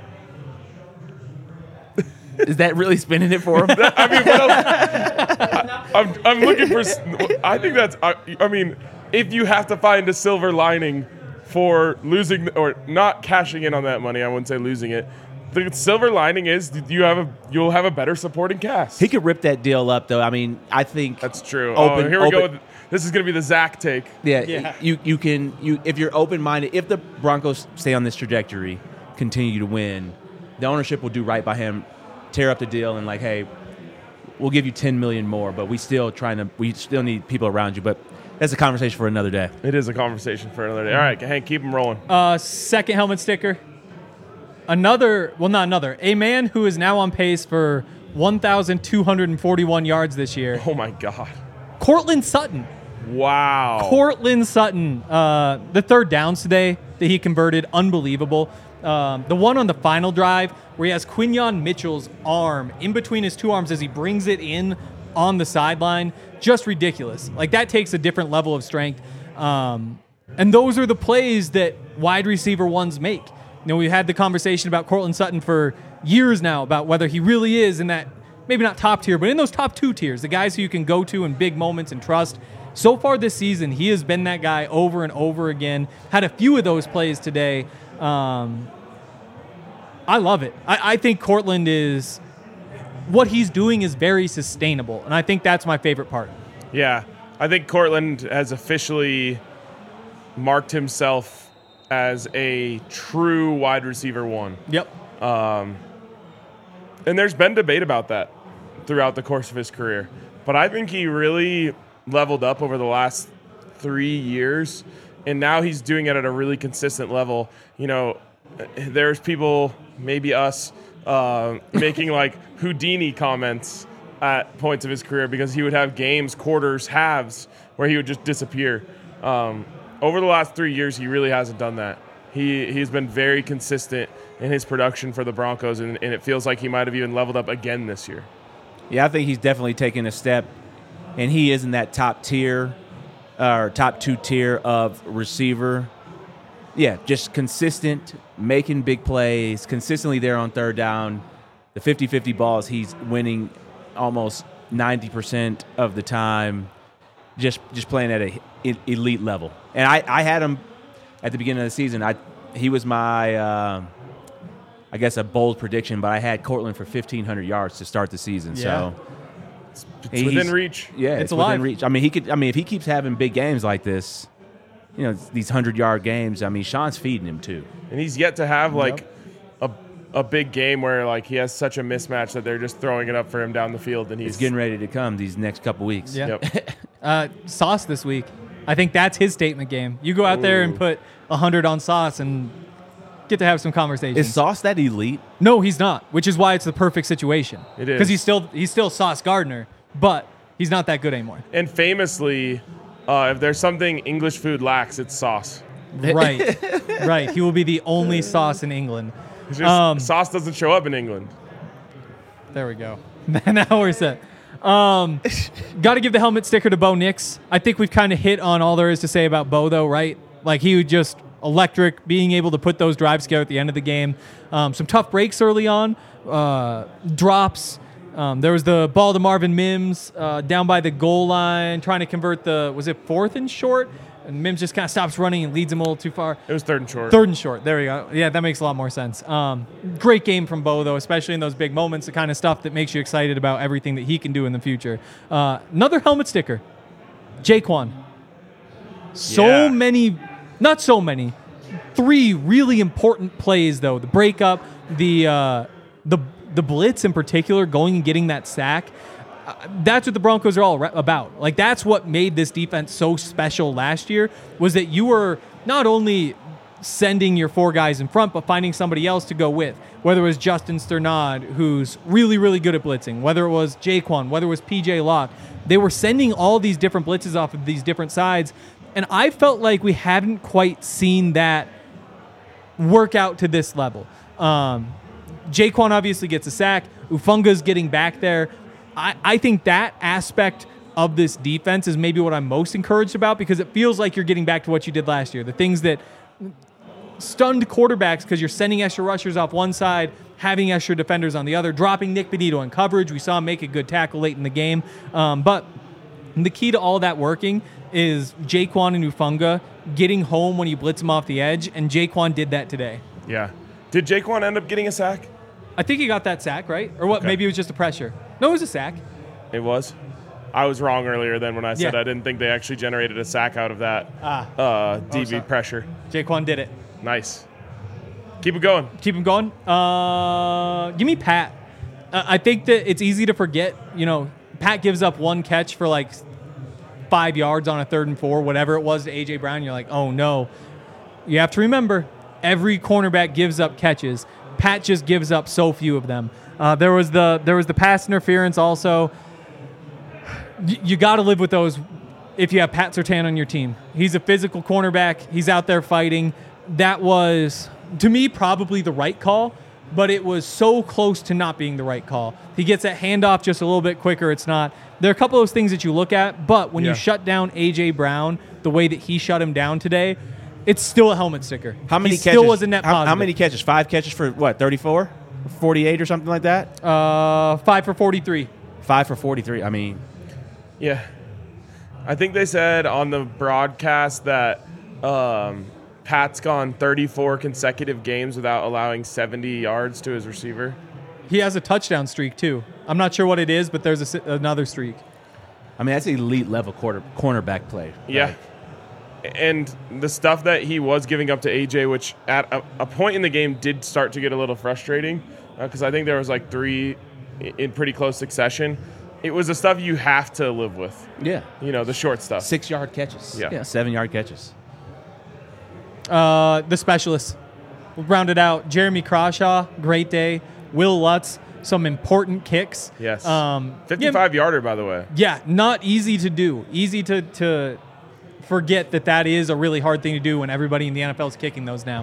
Is that really spinning it for him? I mean, what else? I'm looking for. I think that's. I mean, if you have to find a silver lining for losing or not cashing in on that money, I wouldn't say losing it. The silver lining is you'll have a better supporting cast. He could rip that deal up, though. I mean, I think That's true. Here we go. This is going to be the Zach take. Yeah. You can if you're open minded. If the Broncos stay on this trajectory, continue to win, the ownership will do right by him. Tear up the deal and like, hey, we'll give you $10 million more, but we still need people around you. But that's a conversation for another day. It is a conversation for another day. All right, Hank, keep them rolling. Second helmet sticker. A man who is now on pace for 1,241 yards this year. Oh my God. Courtland Sutton. Wow. Courtland Sutton. The third downs today that he converted, unbelievable. The one on the final drive where he has Quinyon Mitchell's arm in between his two arms as he brings it in on the sideline, just ridiculous. Like, that takes a different level of strength. And those are the plays that wide receiver ones make. You know, we've had the conversation about Courtland Sutton for years now about whether he really is in that, maybe not top tier, but in those top 2 tiers, the guys who you can go to in big moments and trust. So far this season, he has been that guy over and over again. Had a few of those plays today. I love it. I think Courtland what he's doing is very sustainable, and I think that's my favorite part. Yeah, I think Courtland has officially marked himself as a true wide receiver one. Yep. And there's been debate about that throughout the course of his career. But I think he really leveled up over the last 3 years, and now he's doing it at a really consistent level. You know, there's people, maybe us, making like Houdini comments at points of his career because he would have games, quarters, halves where he would just disappear. Over the last 3 years, he really hasn't done that. He's been very consistent in his production for the Broncos, and it feels like he might have even leveled up again this year. Yeah, I think he's definitely taken a step, and he is in that top tier or top 2 tier of receiver. Yeah, just consistent, making big plays, consistently there on third down. The 50-50 balls, he's winning almost 90% of the time, just playing at an elite level. And I had him at the beginning of the season. He was my, I guess, a bold prediction, but I had Courtland for 1,500 yards to start the season. Yeah. So It's within reach. Yeah, it's within reach. I mean, if he keeps having big games like this, you know, these 100-yard games, I mean, Sean's feeding him too. And he's yet to have like a big game where like he has such a mismatch that they're just throwing it up for him down the field, and he's getting ready to come these next couple weeks. Yeah. Yep. Sauce this week. I think that's his statement game. You go out there and put 100 on Sauce and get to have some conversations. Is Sauce that elite? No, he's not, which is why it's the perfect situation. It is. Because he's still Sauce Gardner, but he's not that good anymore. And famously, if there's something English food lacks, it's sauce. Right. Right. He will be the only Sauce in England. It's just, sauce doesn't show up in England. There we go. Now we're set. Got to give the helmet sticker to Bo Nix. I think we've kind of hit on all there is to say about Bo, though, right? Like, he would just electric, being able to put those drives together at the end of the game. Some tough breaks early on, drops. There was the ball to Marvin Mims down by the goal line, trying to convert was it 4th and short? And Mims just kind of stops running and leads him a little too far. It was 3rd and short. 3rd and short. There we go. Yeah, that makes a lot more sense. Great game from Bo, though, especially in those big moments, the kind of stuff that makes you excited about everything that he can do in the future. Another helmet sticker, Jaquan. Not so many. 3 really important plays, though. The breakup, the blitz in particular, going and getting that sack. That's what the Broncos are all about. Like, that's what made this defense so special last year, was that you were not only sending your 4 guys in front, but finding somebody else to go with. Whether it was Justin Sternad, who's really, really good at blitzing, whether it was Jaquan, whether it was PJ Locke. They were sending all these different blitzes off of these different sides, and I felt like we hadn't quite seen that work out to this level. Jaquan obviously gets a sack. Ufunga's getting back there. I think that aspect of this defense is maybe what I'm most encouraged about, because it feels like you're getting back to what you did last year. The things that stunned quarterbacks because you're sending extra rushers off one side, having extra defenders on the other, dropping Nick Benito in coverage. We saw him make a good tackle late in the game. But the key to all that working is Jaquan and Ufunga getting home when you blitz him off the edge, and Jaquan did that today. Yeah. Did Jaquan end up getting a sack? I think he got that sack, right? Or what? Okay. Maybe it was just a pressure. No, it was a sack. It was? I was wrong earlier then when I said Yeah. I didn't think they actually generated a sack out of that DB sorry. pressure. Jaquan did it. Nice. Keep it going. Keep him going. Give me Pat. I think that it's easy to forget. Pat gives up one catch for like 5 yards on a 3rd and 4, whatever it was to A.J. Brown. You're like, oh, no. You have to remember, every cornerback gives up catches. Pat just gives up so few of them. There was the pass interference also. You got to live with those if you have Pat Surtain on your team. He's a physical cornerback. He's out there fighting. That was, to me, probably the right call, but it was so close to not being the right call. He gets that handoff just a little bit quicker. It's not. There are a couple of those things that you look at, but when you shut down A.J. Brown the way that he shut him down today, it's still a helmet sticker. How many he catches? Still was a net positive. How many catches? 5 catches for what? 34, 48, or something like that. 5 for 43. 5 for 43. I mean, Yeah. I think they said on the broadcast that Pat's gone 34 consecutive games without allowing 70 yards to his receiver. He has a touchdown streak, too. I'm not sure what it is, but there's another streak. I mean that's elite level cornerback play. Yeah. And the stuff that he was giving up to AJ, which at a point in the game did start to get a little frustrating because I think there was like 3 in pretty close succession. It was the stuff you have to live with. Yeah. The short stuff. 6-yard catches. Yeah. 7-yard catches. The specialists. We'll round it out. Jeremy Crawshaw, great day. Will Lutz, some important kicks. Yes. 55-yarder, by the way. Yeah, not easy to do. Easy to forget that is a really hard thing to do when everybody in the NFL is kicking those now.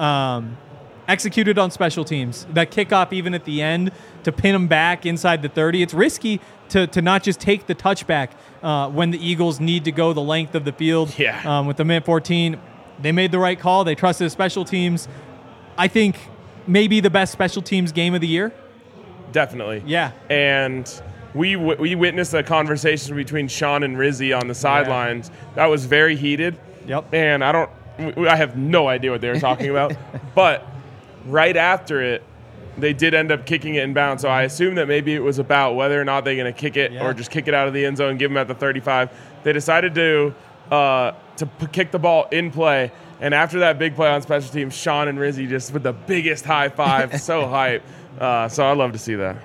Executed on special teams. That kickoff even at the end to pin them back inside the 30. It's risky to not just take the touchback when the Eagles need to go the length of the field. Yeah. With the minute 14. They made the right call. They trusted the special teams. I think maybe the best special teams game of the year. Definitely. Yeah. And we witnessed a conversation between Sean and Rizzy on the sidelines that was very heated. Yep. And I have no idea what they were talking about. But right after it, they did end up kicking it in bounds. So I assume that maybe it was about whether or not they're going to kick it or just kick it out of the end zone and give them at the 35. They decided to kick the ball in play. And after that big play on special teams, Sean and Rizzy just with the biggest high five. So hype. So I'd love to see that.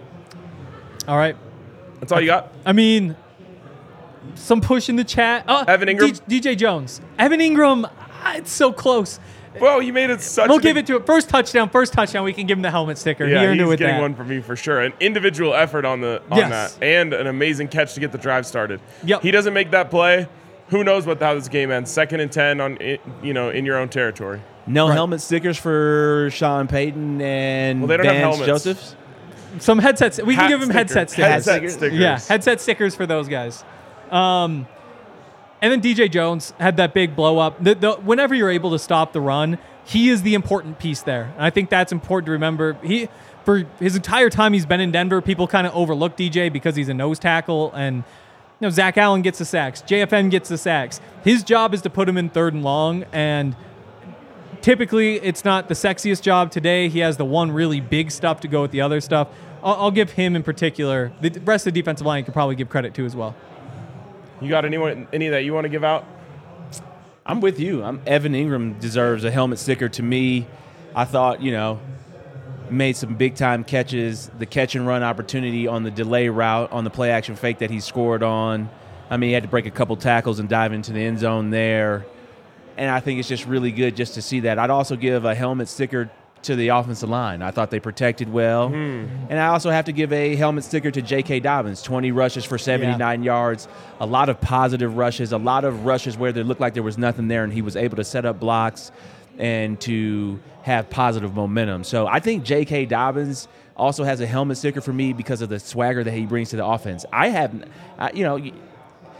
All right. That's all you got? I mean, some push in the chat. Evan Ingram? DJ Jones. Evan Ingram, it's so close. Well, he made it such We'll give it to it. First touchdown. We can give him the helmet sticker. Yeah, he earned he's it with getting that. one from me for sure. An individual effort on that. And an amazing catch to get the drive started. Yep. He doesn't make that play. Who knows how this game ends? 2nd and 10 in your own territory. No helmet stickers for Sean Payton and they don't have Vance helmets. Josephs. Some headsets. We can give him headset stickers. Headset stickers. Yeah, headset stickers for those guys. And then DJ Jones had that big blow up. Whenever you're able to stop the run, he is the important piece there. And I think that's important to remember. For his entire time he's been in Denver, people kind of overlook DJ because he's a nose tackle. And Zach Allen gets the sacks. JFN gets the sacks. His job is to put him in 3rd and long. And typically, it's not the sexiest job. Today, he has the one really big stuff to go with the other stuff. I'll give him in particular. The rest of the defensive line you could probably give credit to as well. You got any that you want to give out? I'm with you. Evan Ingram deserves a helmet sticker to me. I thought, made some big-time catches. The catch-and-run opportunity on the delay route, on the play-action fake that he scored on. I mean, he had to break a couple tackles and dive into the end zone there. And I think it's just really good just to see that. I'd also give a helmet sticker to the offensive line. I thought they protected well. And I also have to give a helmet sticker to J.K. Dobbins. 20 rushes for 79 yards. A lot of positive rushes. A lot of rushes where they looked like there was nothing there, and he was able to set up blocks and to have positive momentum. So I think J.K. Dobbins also has a helmet sticker for me because of the swagger that he brings to the offense. I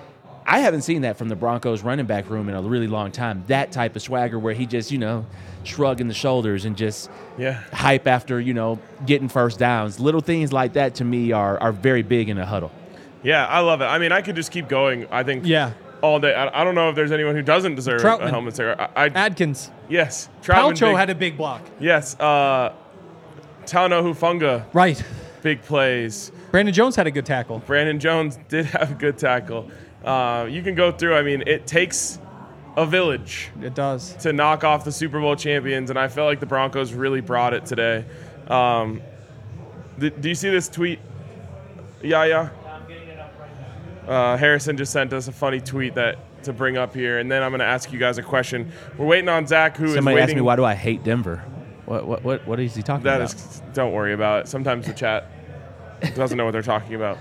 I haven't seen that from the Broncos running back room in a really long time. That type of swagger where he just, shrugging the shoulders and just hype after, getting first downs. Little things like that to me are very big in a huddle. Yeah, I love it. I mean, I could just keep going, I think, all day. I don't know if there's anyone who doesn't deserve a helmet sticker. Adkins. Yes. Palcho had a big block. Yes. Talanoa Hufanga. Right. Big plays. Brandon Jones had a good tackle. Brandon Jones did have a good tackle. You can go through. I mean, it takes a village. It does. To knock off the Super Bowl champions, and I felt like the Broncos really brought it today. Do you see this tweet, Yaya? I'm getting it up right now. Harrison just sent us a funny tweet to bring up here, and then I'm going to ask you guys a question. We're waiting on Zach, who Somebody is waiting. asked me, why do I hate Denver? What is he talking about? Don't worry about it. Sometimes the chat doesn't know what they're talking about.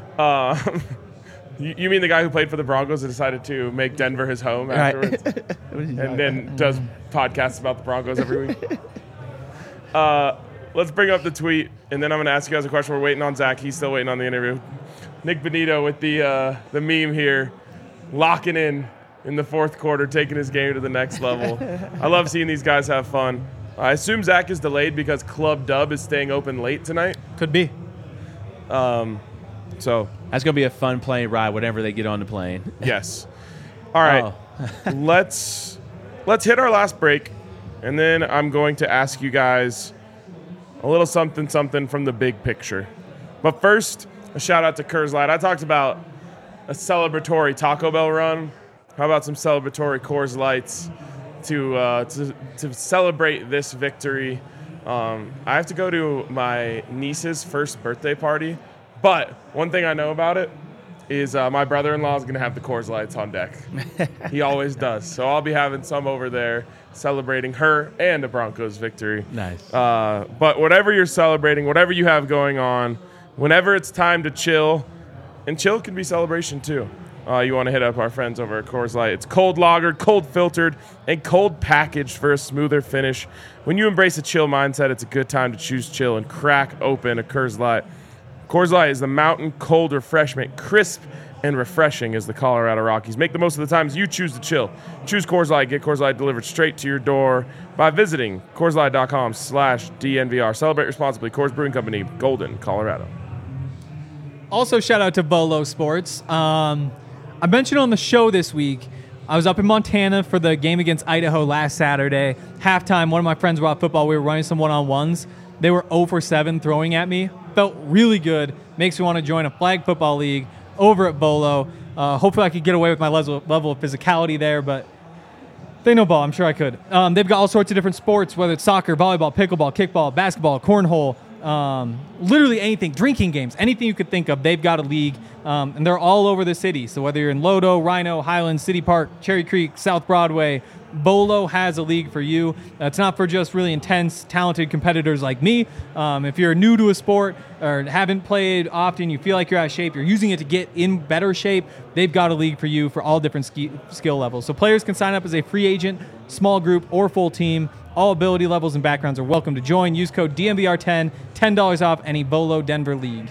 You mean the guy who played for the Broncos and decided to make Denver his home afterwards? And then does podcasts about the Broncos every week? Let's bring up the tweet, and then I'm going to ask you guys a question. We're waiting on Zach. He's still waiting on the interview. Nick Benito with the meme here, locking in the fourth quarter, taking his game to the next level. I love seeing these guys have fun. I assume Zach is delayed because Club Dub is staying open late tonight. Could be. So that's going to be a fun plane ride whenever they get on the plane. Yes. All right. Let's hit our last break, and then I'm going to ask you guys a little something from the big picture. But first, a shout out to Coors Light. I talked about a celebratory Taco Bell run. How about some celebratory Coors Lights to celebrate this victory? I have to go to my niece's first birthday party. But one thing I know about it is my brother-in-law is going to have the Coors Lights on deck. He always does. So I'll be having some over there celebrating her and a Broncos victory. Nice. But whatever you're celebrating, whatever you have going on, whenever it's time to chill, and chill can be celebration too, you want to hit up our friends over at Coors Light. It's cold lagered, cold filtered, and cold packaged for a smoother finish. When you embrace a chill mindset, it's a good time to choose chill and crack open a Coors Light. Coors Light is the mountain cold refreshment, crisp and refreshing as the Colorado Rockies. Make the most of the times you choose to chill. Choose Coors Light. Get Coors Light delivered straight to your door by visiting CoorsLight.com/DNVR. Celebrate responsibly. Coors Brewing Company, Golden, Colorado. Also, shout out to Bolo Sports. I mentioned on the show this week, I was up in Montana for the game against Idaho last Saturday. Halftime, one of my friends brought football. We were running some one-on-ones. They were 0 for 7 throwing at me. Felt really good. Makes me want to join a flag football league over at Bolo. Hopefully I could get away with my level of physicality there, but they know ball. I'm sure I could. They've got all sorts of different sports, whether it's soccer, volleyball, pickleball, kickball, basketball, cornhole, literally anything, drinking games, anything you could think of. They've got a league, and they're all over the city. So whether you're in Lodo, Rhino, Highlands, City Park, Cherry Creek, South Broadway, Bolo has a league for you. It's not for just really intense, talented competitors like me. If you're new to a sport or haven't played often, you feel like you're out of shape, you're using it to get in better shape, they've got a league for you for all different skill levels. So players can sign up as a free agent, small group, or full team. All ability levels and backgrounds are welcome to join. Use code DNVR10, $10 off any Bolo Denver league.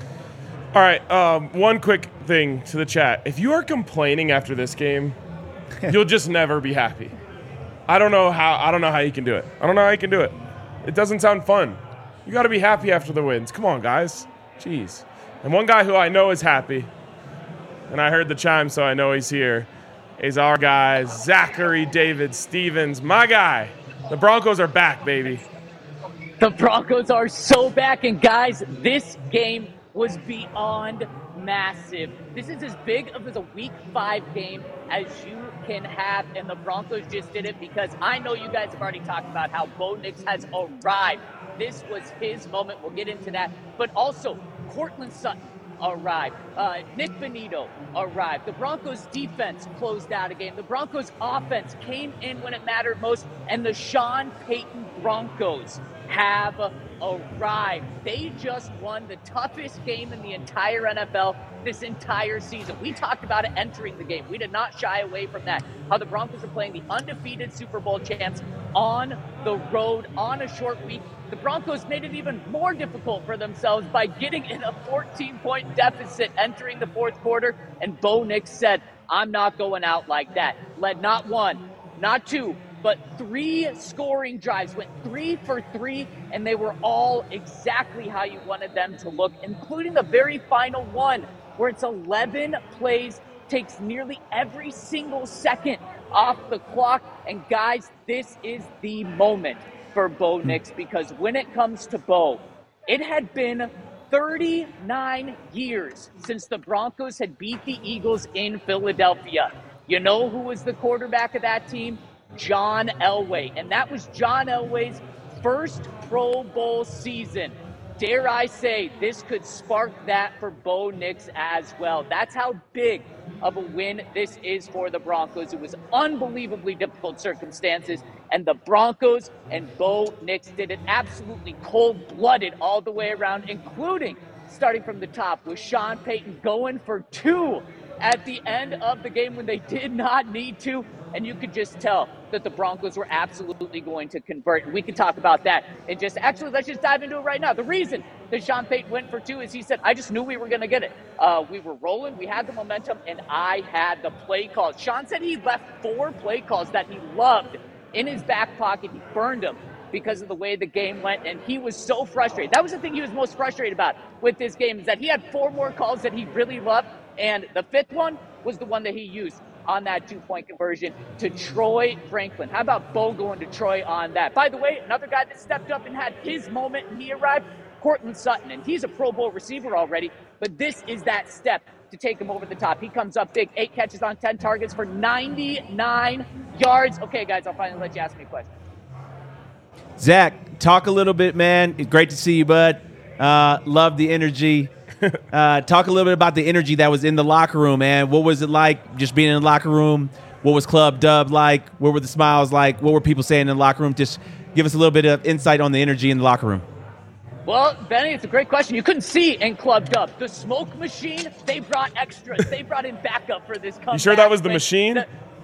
All right, one quick thing to the chat. If you are complaining after this game, you'll just never be happy. I don't know how you can do it. I don't know how you can do it. It doesn't sound fun. You got to be happy after the wins. Come on, guys. Jeez. And one guy who I know is happy, and I heard the chime, so I know he's here, is our guy, Zachary David Stevens. My guy. The Broncos are back, baby. The Broncos are so back, and guys, this game was beyond massive. This is as big of a Week 5 game as you can have, and the Broncos just did it because I know you guys have already talked about how Bo Nix has arrived. This was his moment. We'll get into that. But also, Courtland Sutton arrived. Nick Benito arrived. The Broncos defense closed out a game. The Broncos offense came in when it mattered most, and the Sean Payton Broncos have arrived. They just won the toughest game in the entire NFL this entire season. We talked about it entering the game. We did not shy away from that. How the Broncos are playing the undefeated Super Bowl champs on the road on a short week. The Broncos made it even more difficult for themselves by getting in a 14-point deficit entering the fourth quarter, and Bo Nix said, I'm not going out like that. Led not one, not two, but 3 scoring drives, went 3 for 3, and they were all exactly how you wanted them to look, including the very final one, where it's 11 plays, takes nearly every single second off the clock. And guys, this is the moment for Bo Nix, because when it comes to Bo, it had been 39 years since the Broncos had beat the Eagles in Philadelphia. You know who was the quarterback of that team? John Elway. And that was John Elway's first Pro Bowl season. Dare I say, this could spark that for Bo Nix as well. That's how big of a win this is for the Broncos. It was unbelievably difficult circumstances, and the Broncos and Bo Nix did it absolutely cold-blooded all the way around, including starting from the top with Sean Payton going for 2 at the end of the game when they did not need to. And you could just tell that the Broncos were absolutely going to convert. And we can talk about that. And let's just dive into it right now. The reason that Sean Payton went for 2 is he said, I just knew we were going to get it. We were rolling, we had the momentum, and I had the play calls. Sean said he left 4 play calls that he loved in his back pocket. He burned them because of the way the game went, and he was so frustrated. That was the thing he was most frustrated about with this game, is that he had 4 more calls that he really loved, and the 5th one was the one that he used on that 2-point conversion to Troy Franklin. How about Bo going to Troy on that? By the way, another guy that stepped up and had his moment and he arrived, Courtland Sutton, and he's a Pro Bowl receiver already, but this is that step to take him over the top. He comes up big, 8 catches on 10 targets for 99 yards. Okay, guys, I'll finally let you ask me a question. Zach, talk a little bit, man. It's great to see you, bud. Love the energy. Talk a little bit about the energy that was in the locker room, man. What was it like just being in the locker room? What was Club Dub like? What were the smiles like? What were people saying in the locker room? Just give us a little bit of insight on the energy in the locker room. Well, Benny, it's a great question. You couldn't see in Club Dub. The smoke machine, they brought extras. They brought in backup for this comeback. You sure that was the machine?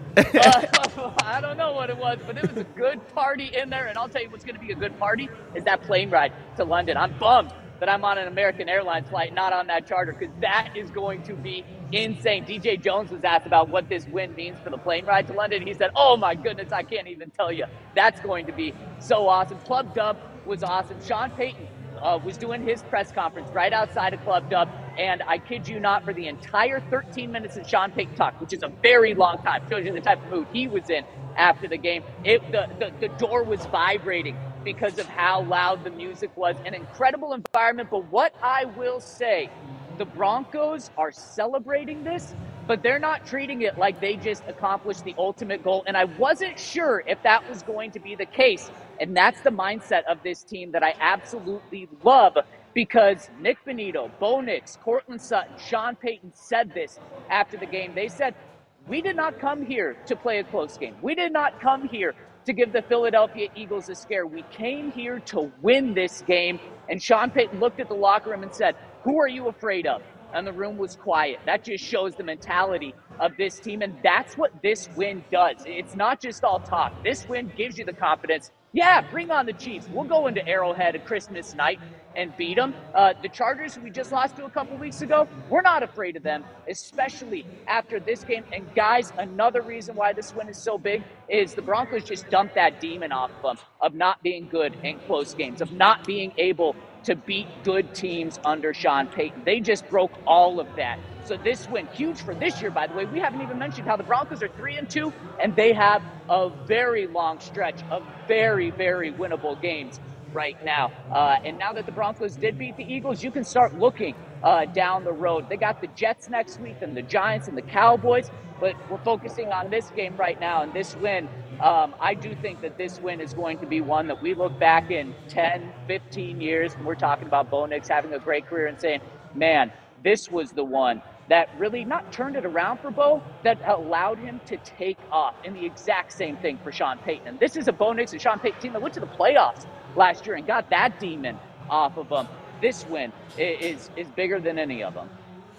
I don't know what it was, but it was a good party in there. And I'll tell you what's going to be a good party is that plane ride to London. I'm bummed that I'm on an American Airlines flight, not on that charter, because that is going to be insane. DJ Jones was asked about what this win means for the plane ride to London. He said, oh my goodness, I can't even tell you. That's going to be so awesome. Club Dub was awesome. Sean Payton was doing his press conference right outside of Club Dub, and I kid you not, for the entire 13 minutes that Sean Payton talked, which is a very long time, shows you the type of mood he was in after the game, the door was vibrating because of how loud the music was. An incredible environment, but what I will say, the Broncos are celebrating this, but they're not treating it like they just accomplished the ultimate goal, and I wasn't sure if that was going to be the case, and that's the mindset of this team that I absolutely love, because Nick Bonito, Bo Nix, Courtland Sutton, Sean Payton said this after the game. They said, we did not come here to play a close game. We did not come here to give the Philadelphia Eagles a scare. We came here to win this game. And Sean Payton looked at the locker room and said, who are you afraid of? And the room was quiet. That just shows the mentality of this team, and that's what this win does. It's not just all talk. This win gives you the confidence. Yeah, bring on the Chiefs. We'll go into Arrowhead at Christmas night and beat them. The Chargers, who we just lost to a couple weeks ago, we're not afraid of them, especially after this game. And guys, another reason why this win is so big is the Broncos just dumped that demon off of them of not being good in close games, of not being able to beat good teams under Sean Payton. They just broke all of that. So this win, huge for this year, by the way. We haven't even mentioned how the Broncos are 3-2, and they have a very long stretch of very, very winnable games right now. And now that the Broncos did beat the Eagles, you can start looking down the road. They got the Jets next week and the Giants and the Cowboys, but we're focusing on this game right now, and this win, I do think that this win is going to be one that we look back in 10, 15 years, and we're talking about Bo Nix having a great career and saying, man, this was the one that really not turned it around for Bo, that allowed him to take off. And the exact same thing for Sean Payton. And this is a Bo Nix and Sean Payton team that went to the playoffs last year and got that demon off of them. This win is bigger than any of them.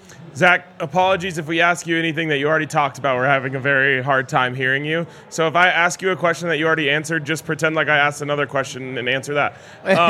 Zach, apologies if we ask you anything that you already talked about. We're having a very hard time hearing you. So if I ask you a question that you already answered, just pretend like I asked another question and answer that.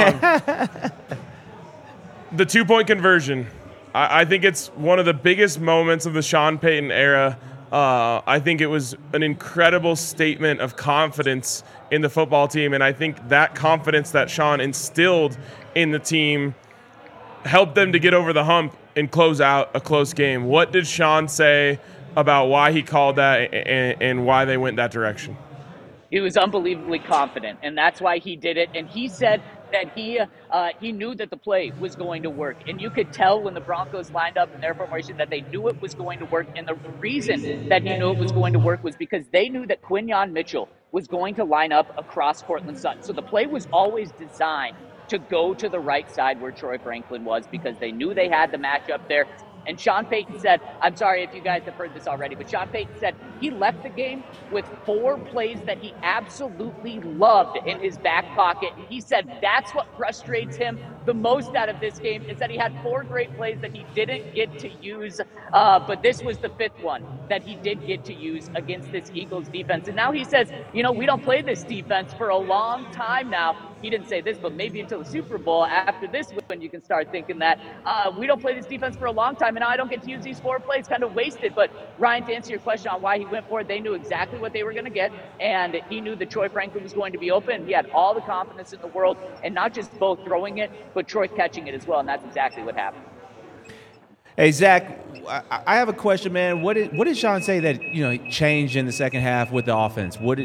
The two-point conversion. I think it's one of the biggest moments of the Sean Payton era. I think it was an incredible statement of confidence in the football team, and I think that confidence that Sean instilled in the team helped them to get over the hump and close out a close game. What did Sean say about why he called that and why they went that direction? He was unbelievably confident, and that's why he did it. And he said that he knew that the play was going to work. And you could tell when the Broncos lined up in their formation that they knew it was going to work. And the reason that he knew it was going to work was because they knew that Quinyon Mitchell was going to line up across Courtland Sutton. So the play was always designed to go to the right side where Troy Franklin was because they knew they had the matchup there. And Sean Payton said, I'm sorry if you guys have heard this already, but Sean Payton said he left the game with 4 plays that he absolutely loved in his back pocket. And he said that's what frustrates him the most out of this game is that he had 4 great plays that he didn't get to use. But this was the 5th one that he did get to use against this Eagles defense. And now he says, we don't play this defense for a long time now. He didn't say this, but maybe until the Super Bowl. After this when you can start thinking that we don't play this defense for a long time, and now I don't get to use these 4 plays, kind of wasted. But Ryan, to answer your question on why he went for it, they knew exactly what they were going to get, and he knew that Troy Franklin was going to be open. He had all the confidence in the world, and not just both throwing it, but Troy catching it as well, and that's exactly what happened. Hey, Zach, I have a question, man. What did Sean say that changed in the second half with the offense? What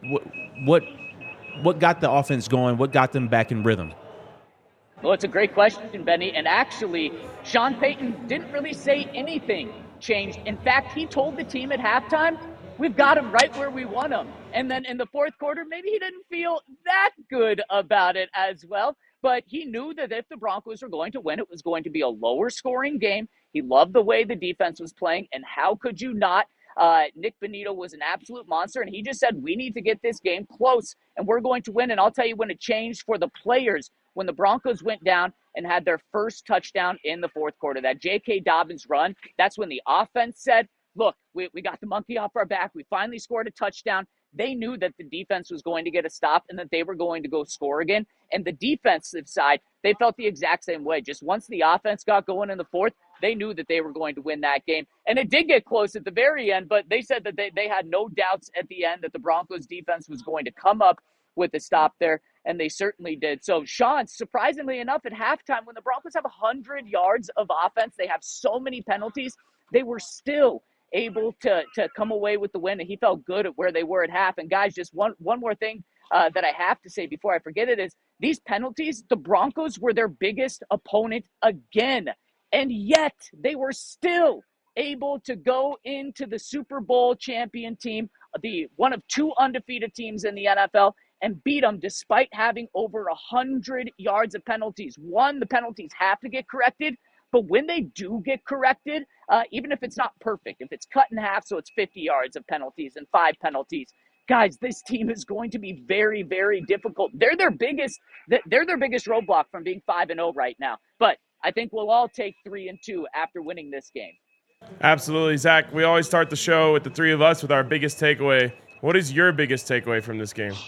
got the offense going? What got them back in rhythm? Well, it's a great question, Benny. And actually, Sean Payton didn't really say anything changed. In fact, he told the team at halftime, we've got him right where we want him. And then in the fourth quarter, maybe he didn't feel that good about it as well. But he knew that if the Broncos were going to win, it was going to be a lower scoring game. He loved the way the defense was playing. And how could you not? Nick Bonito was an absolute monster, and he just said, we need to get this game close, and we're going to win. And I'll tell you when it changed for the players, when the Broncos went down and had their first touchdown in the fourth quarter, that J.K. Dobbins run, that's when the offense said, look, we got the monkey off our back. We finally scored a touchdown. They knew that the defense was going to get a stop and that they were going to go score again. And the defensive side, they felt the exact same way. Just once the offense got going in the fourth, they knew that they were going to win that game. And it did get close at the very end, but they said that they had no doubts at the end that the Broncos defense was going to come up with a stop there, and they certainly did. So, Sean, surprisingly enough, at halftime, when the Broncos have 100 yards of offense, they have so many penalties, they were still able to come away with the win, and he felt good at where they were at half. And, guys, just one more thing that I have to say before I forget it is these penalties, the Broncos were their biggest opponent again. And yet they were still able to go into the Super Bowl champion team, the one of 2 undefeated teams in the NFL, and beat them despite having over 100 yards of penalties. One, the penalties have to get corrected, but when they do get corrected, even if it's not perfect, if it's cut in half so it's 50 yards of penalties and 5 penalties, guys, this team is going to be very, very difficult. They're their biggest roadblock from being 5-0 right now. But I think we'll all take 3-2 after winning this game. Absolutely, Zach. We always start the show with the 3 of us with our biggest takeaway. What is your biggest takeaway from this game?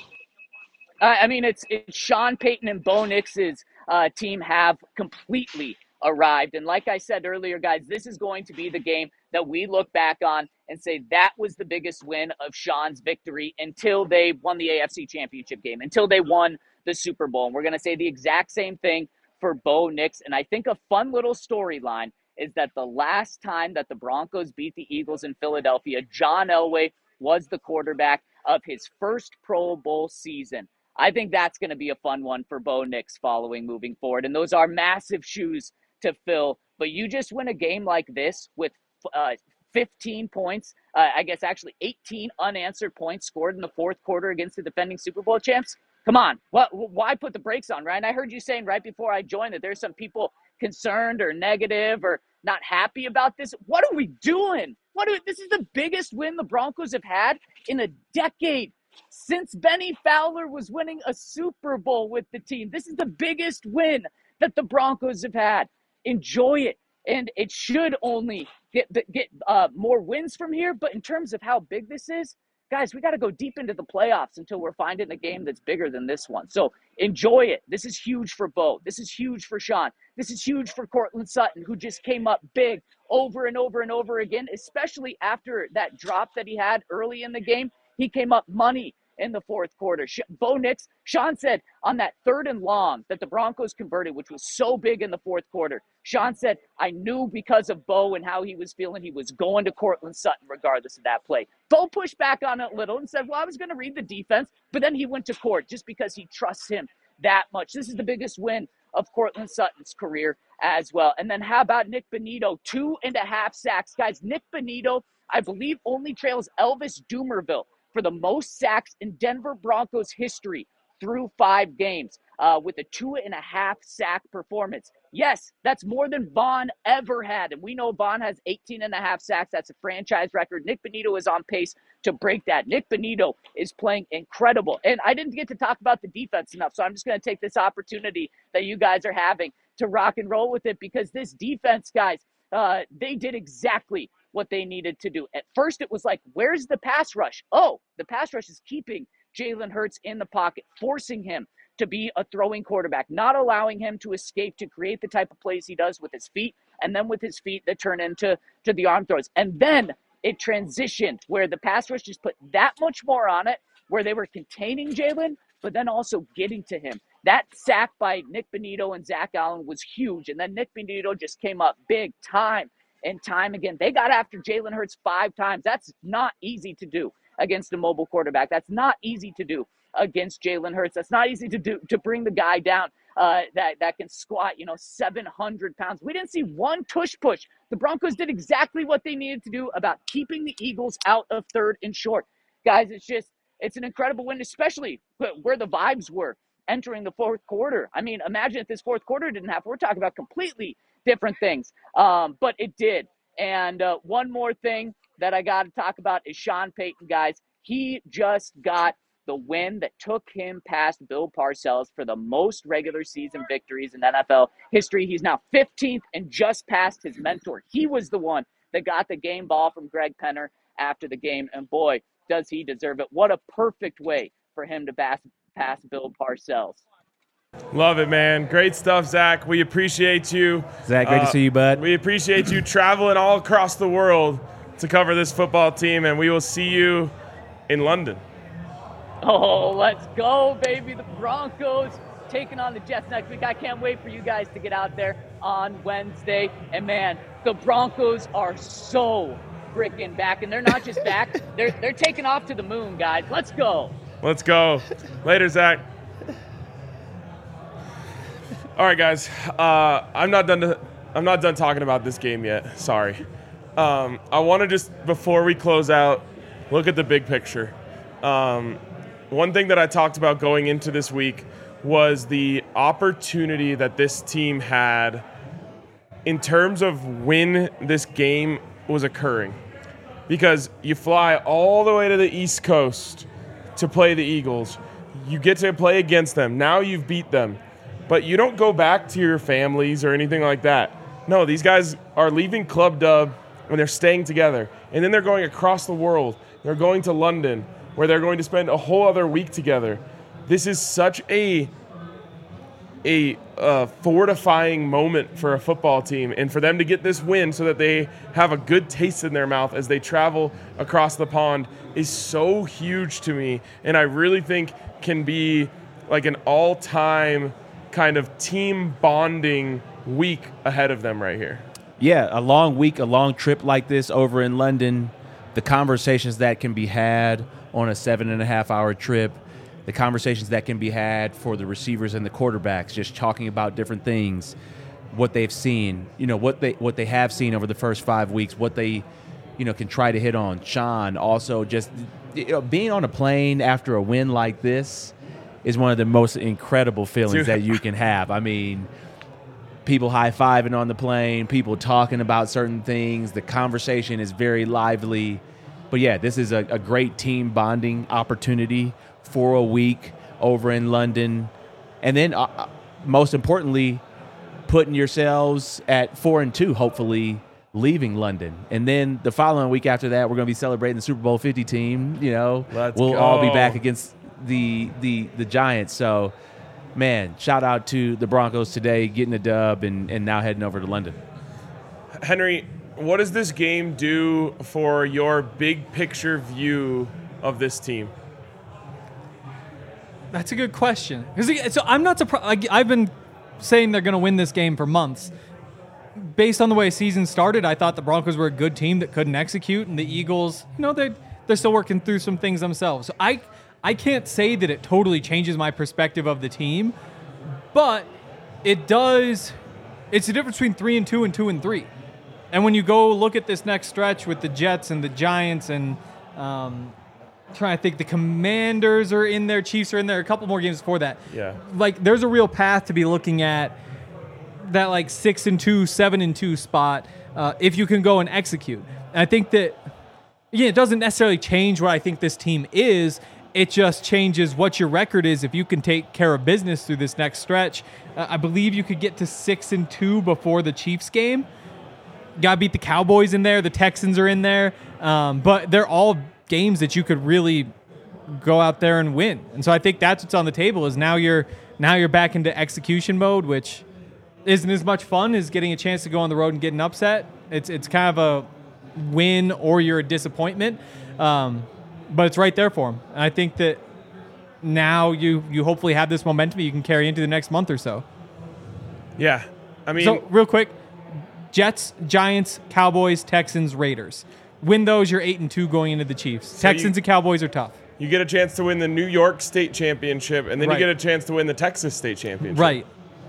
It's Sean Payton and Bo Nix's team have completely arrived. And like I said earlier, guys, this is going to be the game that we look back on and say that was the biggest win of Sean's victory until they won the AFC Championship game, until they won the Super Bowl. And we're going to say the exact same thing for Bo Nix. And I think a fun little storyline is that the last time that the Broncos beat the Eagles in Philadelphia, John Elway was the quarterback of his first Pro Bowl season. I think that's going to be a fun one for Bo Nix moving forward. And those are massive shoes to fill. But you just win a game like this with 15 points, 18 unanswered points scored in the fourth quarter against the defending Super Bowl champs. Come on. Why put the brakes on, Ryan? I heard you saying right before I joined that there's some people concerned or negative or not happy about this. What are we doing? This is the biggest win the Broncos have had in a decade since Benny Fowler was winning a Super Bowl with the team. This is the biggest win that the Broncos have had. Enjoy it. and it should only get more wins from here. But in terms of how big this is, guys, we got to go deep into the playoffs until we're finding a game that's bigger than this one. So enjoy it. This is huge for Bo. This is huge for Sean. This is huge for Courtland Sutton, who just came up big over and over and over again, especially after that drop that he had early in the game. He came up money in the fourth quarter. Bo Nix, Sean said on that 3rd and long that the Broncos converted, which was so big in the fourth quarter, Sean said, I knew because of Bo and how he was feeling, he was going to Courtland Sutton regardless of that play. Bo pushed back on it a little and said, well, I was going to read the defense, but then he went to Court just because he trusts him that much. This is the biggest win of Courtland Sutton's career as well. And then how about Nick Bonitto? 2.5 sacks. Guys, Nick Bonitto, I believe, only trails Elvis Dumervil for the most sacks in Denver Broncos history through 5 games with a 2.5 sack performance. Yes, that's more than Vaughn ever had. And we know Vaughn has 18.5 sacks. That's a franchise record. Nick Bonitto is on pace to break that. Nick Bonitto is playing incredible. And I didn't get to talk about the defense enough, so I'm just going to take this opportunity that you guys are having to rock and roll with it, because this defense, guys, they did exactly what they needed to do. At first, it was like, where's the pass rush? Oh, the pass rush is keeping Jalen Hurts in the pocket, forcing him to be a throwing quarterback, not allowing him to escape to create the type of plays he does with his feet, and then with his feet that turn into the arm throws. And then it transitioned where the pass rush just put that much more on it, where they were containing Jalen, but then also getting to him. That sack by Nick Bonitto and Zach Allen was huge. And then Nick Bonitto just came up big time and time again. They got after Jalen Hurts 5 times. That's not easy to do against a mobile quarterback. That's not easy to do against Jalen Hurts. That's not easy to do, to bring the guy down that can squat, 700 pounds. We didn't see one tush push. The Broncos did exactly what they needed to do about keeping the Eagles out of 3rd and short. Guys, it's an incredible win, especially where the vibes were entering the fourth quarter. I mean, imagine if this fourth quarter didn't happen. We're talking about completely different things, but it did. And one more thing that I got to talk about is Sean Payton, guys. He just got the win that took him past Bill Parcells for the most regular season victories in NFL history. He's now 15th and just passed his mentor. He was the one that got the game ball from Greg Penner after the game, and boy, does he deserve it. What a perfect way for him to pass Bill Parcells. Love it, man. Great stuff, Zach. We appreciate you. Zach, great to see you, bud. We appreciate you traveling all across the world to cover this football team, and we will see you in London. Oh, let's go, baby. The Broncos taking on the Jets next week. I can't wait for you guys to get out there on Wednesday. And, man, the Broncos are so freaking back. And they're not just back. They're taking off to the moon, guys. Let's go. Let's go. Later, Zach. All right, guys. I'm not done talking about this game yet. Sorry. I want to just, before we close out, look at the big picture. One thing that I talked about going into this week was the opportunity that this team had in terms of when this game was occurring. Because you fly all the way to the East Coast to play the Eagles. You get to play against them. Now you've beat them. But you don't go back to your families or anything like that. No, these guys are leaving Club Dub and they're staying together. And then they're going across the world. They're going to London, where they're going to spend a whole other week together. This is such a fortifying moment for a football team, and for them to get this win so that they have a good taste in their mouth as they travel across the pond is so huge to me, and I really think can be like an all-time kind of team bonding week ahead of them right here. Yeah, a long week, a long trip like this over in London, the conversations that can be had on a 7.5-hour trip, the conversations that can be had for the receivers and the quarterbacks, just talking about different things, what they've seen, what they have seen over the first 5 weeks, what they, can try to hit on. Sean, also just being on a plane after a win like this is one of the most incredible feelings that you can have. I mean, people high-fiving on the plane, people talking about certain things. The conversation is very lively. But, yeah, this is a great team bonding opportunity for a week over in London. And then, most importantly, putting yourselves at 4-2, hopefully leaving London. And then the following week after that, we're going to be celebrating the Super Bowl 50 team. Let's we'll go. all be back against the Giants. So, man, shout out to the Broncos today, getting a dub and now heading over to London. Henry, what does this game do for your big picture view of this team? That's a good question. So I'm not surprised. I've been saying they're going to win this game for months. Based on the way season started, I thought the Broncos were a good team that couldn't execute, and the Eagles, they're still working through some things themselves. So I can't say that it totally changes my perspective of the team, but it does. It's the difference between 3-2 and 2-3. And when you go look at this next stretch with the Jets and the Giants and trying to think, the Commanders are in there, Chiefs are in there, a couple more games before that. Yeah. Like, there's a real path to be looking at that, like, 6-2, 7-2 spot if you can go and execute. And I think that, it doesn't necessarily change what I think this team is. It just changes what your record is if you can take care of business through this next stretch. I believe you could get to 6-2 before the Chiefs game. Got to beat the Cowboys in there. The Texans are in there. But they're all games that you could really go out there and win. And so I think that's what's on the table is now you're back into execution mode, which isn't as much fun as getting a chance to go on the road and get an upset. It's kind of a win or you're a disappointment. But it's right there for them. And I think that now you hopefully have this momentum you can carry into the next month or so. Yeah. I mean, so real quick, Jets, Giants, Cowboys, Texans, Raiders. Win those, you're 8-2 going into the Chiefs. So Texans and Cowboys are tough. you get a chance to win the New York State Championship, and then Right. you get a chance to win the Texas State Championship. Right.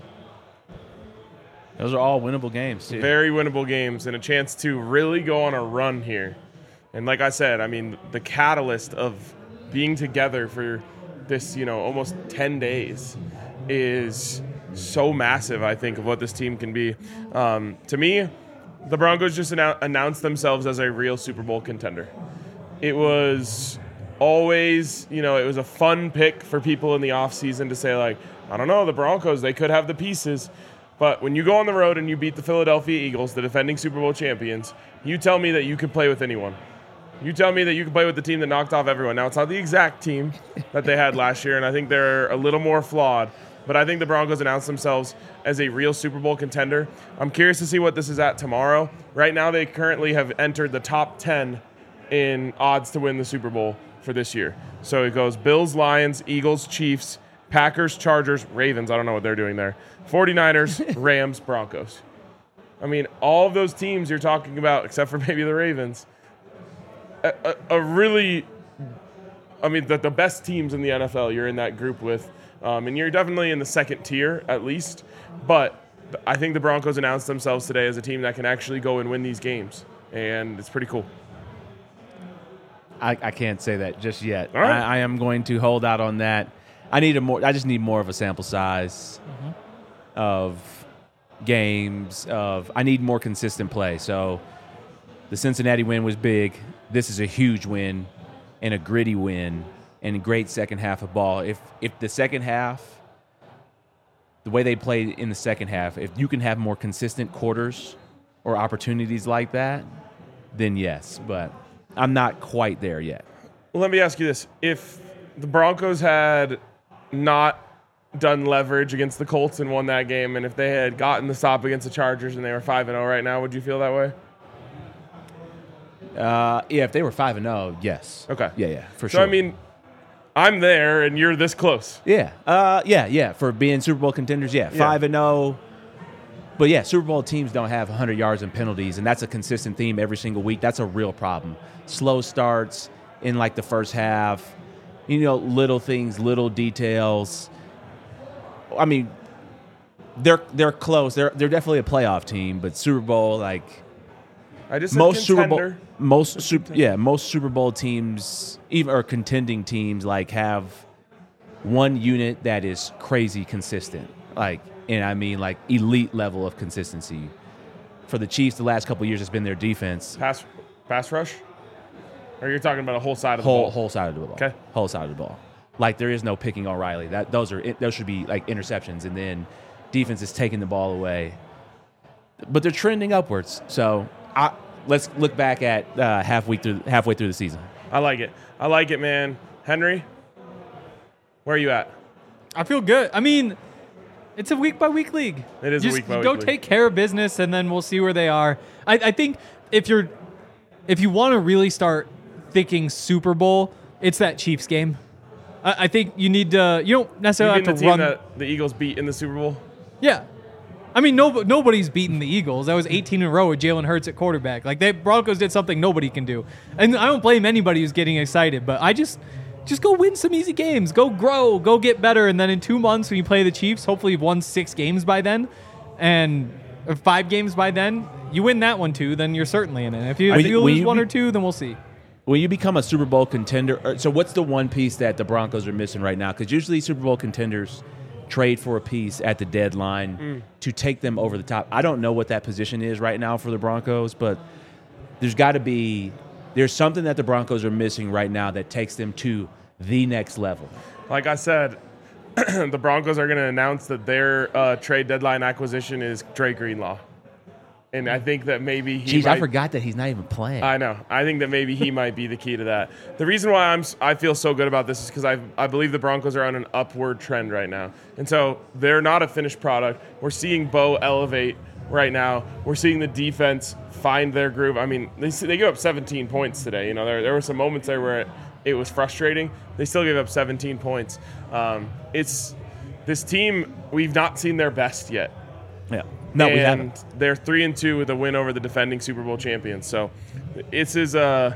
Those are all winnable games, too. Very winnable games and a chance to really go on a run here. And like I said, I mean, the catalyst of being together for this, almost 10 days is so massive, I think, of what this team can be. To me, the Broncos just announced themselves as a real Super Bowl contender. It was always, it was a fun pick for people in the offseason to say, like, I don't know, the Broncos, they could have the pieces. But when you go on the road and you beat the Philadelphia Eagles, the defending Super Bowl champions, you tell me that you can play with anyone. You tell me that you can play with the team that knocked off everyone. Now, it's not the exact team that they had last year, and I think they're a little more flawed. But I think the Broncos announced themselves as a real Super Bowl contender. I'm curious to see what this is at tomorrow. Right now, they currently have entered the top 10 in odds to win the Super Bowl for this year. So it goes Bills, Lions, Eagles, Chiefs, Packers, Chargers, Ravens. I don't know what they're doing there. 49ers, Rams, Broncos. I mean, all of those teams you're talking about, except for maybe the Ravens, the best teams in the NFL you're in that group with. And you're definitely in the second tier, at least. But I think the Broncos announced themselves today as a team that can actually go and win these games. And it's pretty cool. I can't say that just yet. All right. I am going to hold out on that. I just need more of a sample size of games. I need more consistent play. So the Cincinnati win was big. This is a huge win and a gritty win and a great second half of ball. If the second half, the way they played in the second half, if you can have more consistent quarters or opportunities like that, then yes. But I'm not quite there yet. Well, let me ask you this. If the Broncos had not done leverage against the Colts and won that game, and if they had gotten the stop against the Chargers and they were 5-0 right now, would you feel that way? Yeah, if they were 5-0, yes. Okay. Yeah, for So, sure. I mean, I'm there and you're this close. Yeah. For being Super Bowl contenders, Yeah. 5-0. But yeah, Super Bowl teams don't have 100 yards and penalties, and that's a consistent theme every single week. That's a real problem. Slow starts in like the first half, little things, little details. I mean, they're close. They're definitely a playoff team, but Super Bowl, like I just said most contender. most Super Bowl teams, even or contending teams, like have one unit that is crazy consistent. And I mean like elite level of consistency. For the Chiefs, the last couple of years, it's been their defense. Pass rush? Or you're talking about a whole side of the ball? Whole side of the ball. Okay. Whole side of the ball. Like there is no picking O'Reilly. Those should be like interceptions. And then defense is taking the ball away. But they're trending upwards. So let's look back at halfway through the season. I like it, man. Henry, where are you at? I feel good. I mean, it's a week-by-week league. It is a week-by-week go league. take care of business, and then we'll see where they are. I think if you want to really start thinking Super Bowl, it's that Chiefs game. I think you need to. You don't necessarily You have mean to the team run. that the Eagles beat in the Super Bowl? Yeah. I mean, nobody's beaten the Eagles. That was 18 in a row with Jalen Hurts at quarterback. Like, Broncos did something nobody can do. And I don't blame anybody who's getting excited, but I just go win some easy games. Go grow. Go get better. And then in 2 months when you play the Chiefs, hopefully you've won 6 games by then or 5 games by then. You win that one, too, then you're certainly in it. If you lose one or two, then we'll see. When you become a Super Bowl contender, so what's the one piece that the Broncos are missing right now? Because usually Super Bowl contenders trade for a piece at the deadline to take them over the top. I don't know what that position is right now for the Broncos, but there's something that the Broncos are missing right now that takes them to the next level. Like I said, the Broncos are going to announce that their trade deadline acquisition is Dre Greenlaw. And I think that maybe I forgot that he's not even playing. I know. I think that maybe he might be the key to that. The reason why I feel so good about this is because I believe the Broncos are on an upward trend right now. And so they're not a finished product. We're seeing Bo elevate right now. We're seeing the defense find their groove. I mean, they gave up 17 points today. You know, there were some moments there where it was frustrating. They still gave up 17 points. It's this team, we've not seen their best yet. Yeah. No, we and haven't. they're 3-2 with a win over the defending Super Bowl champions. So this is a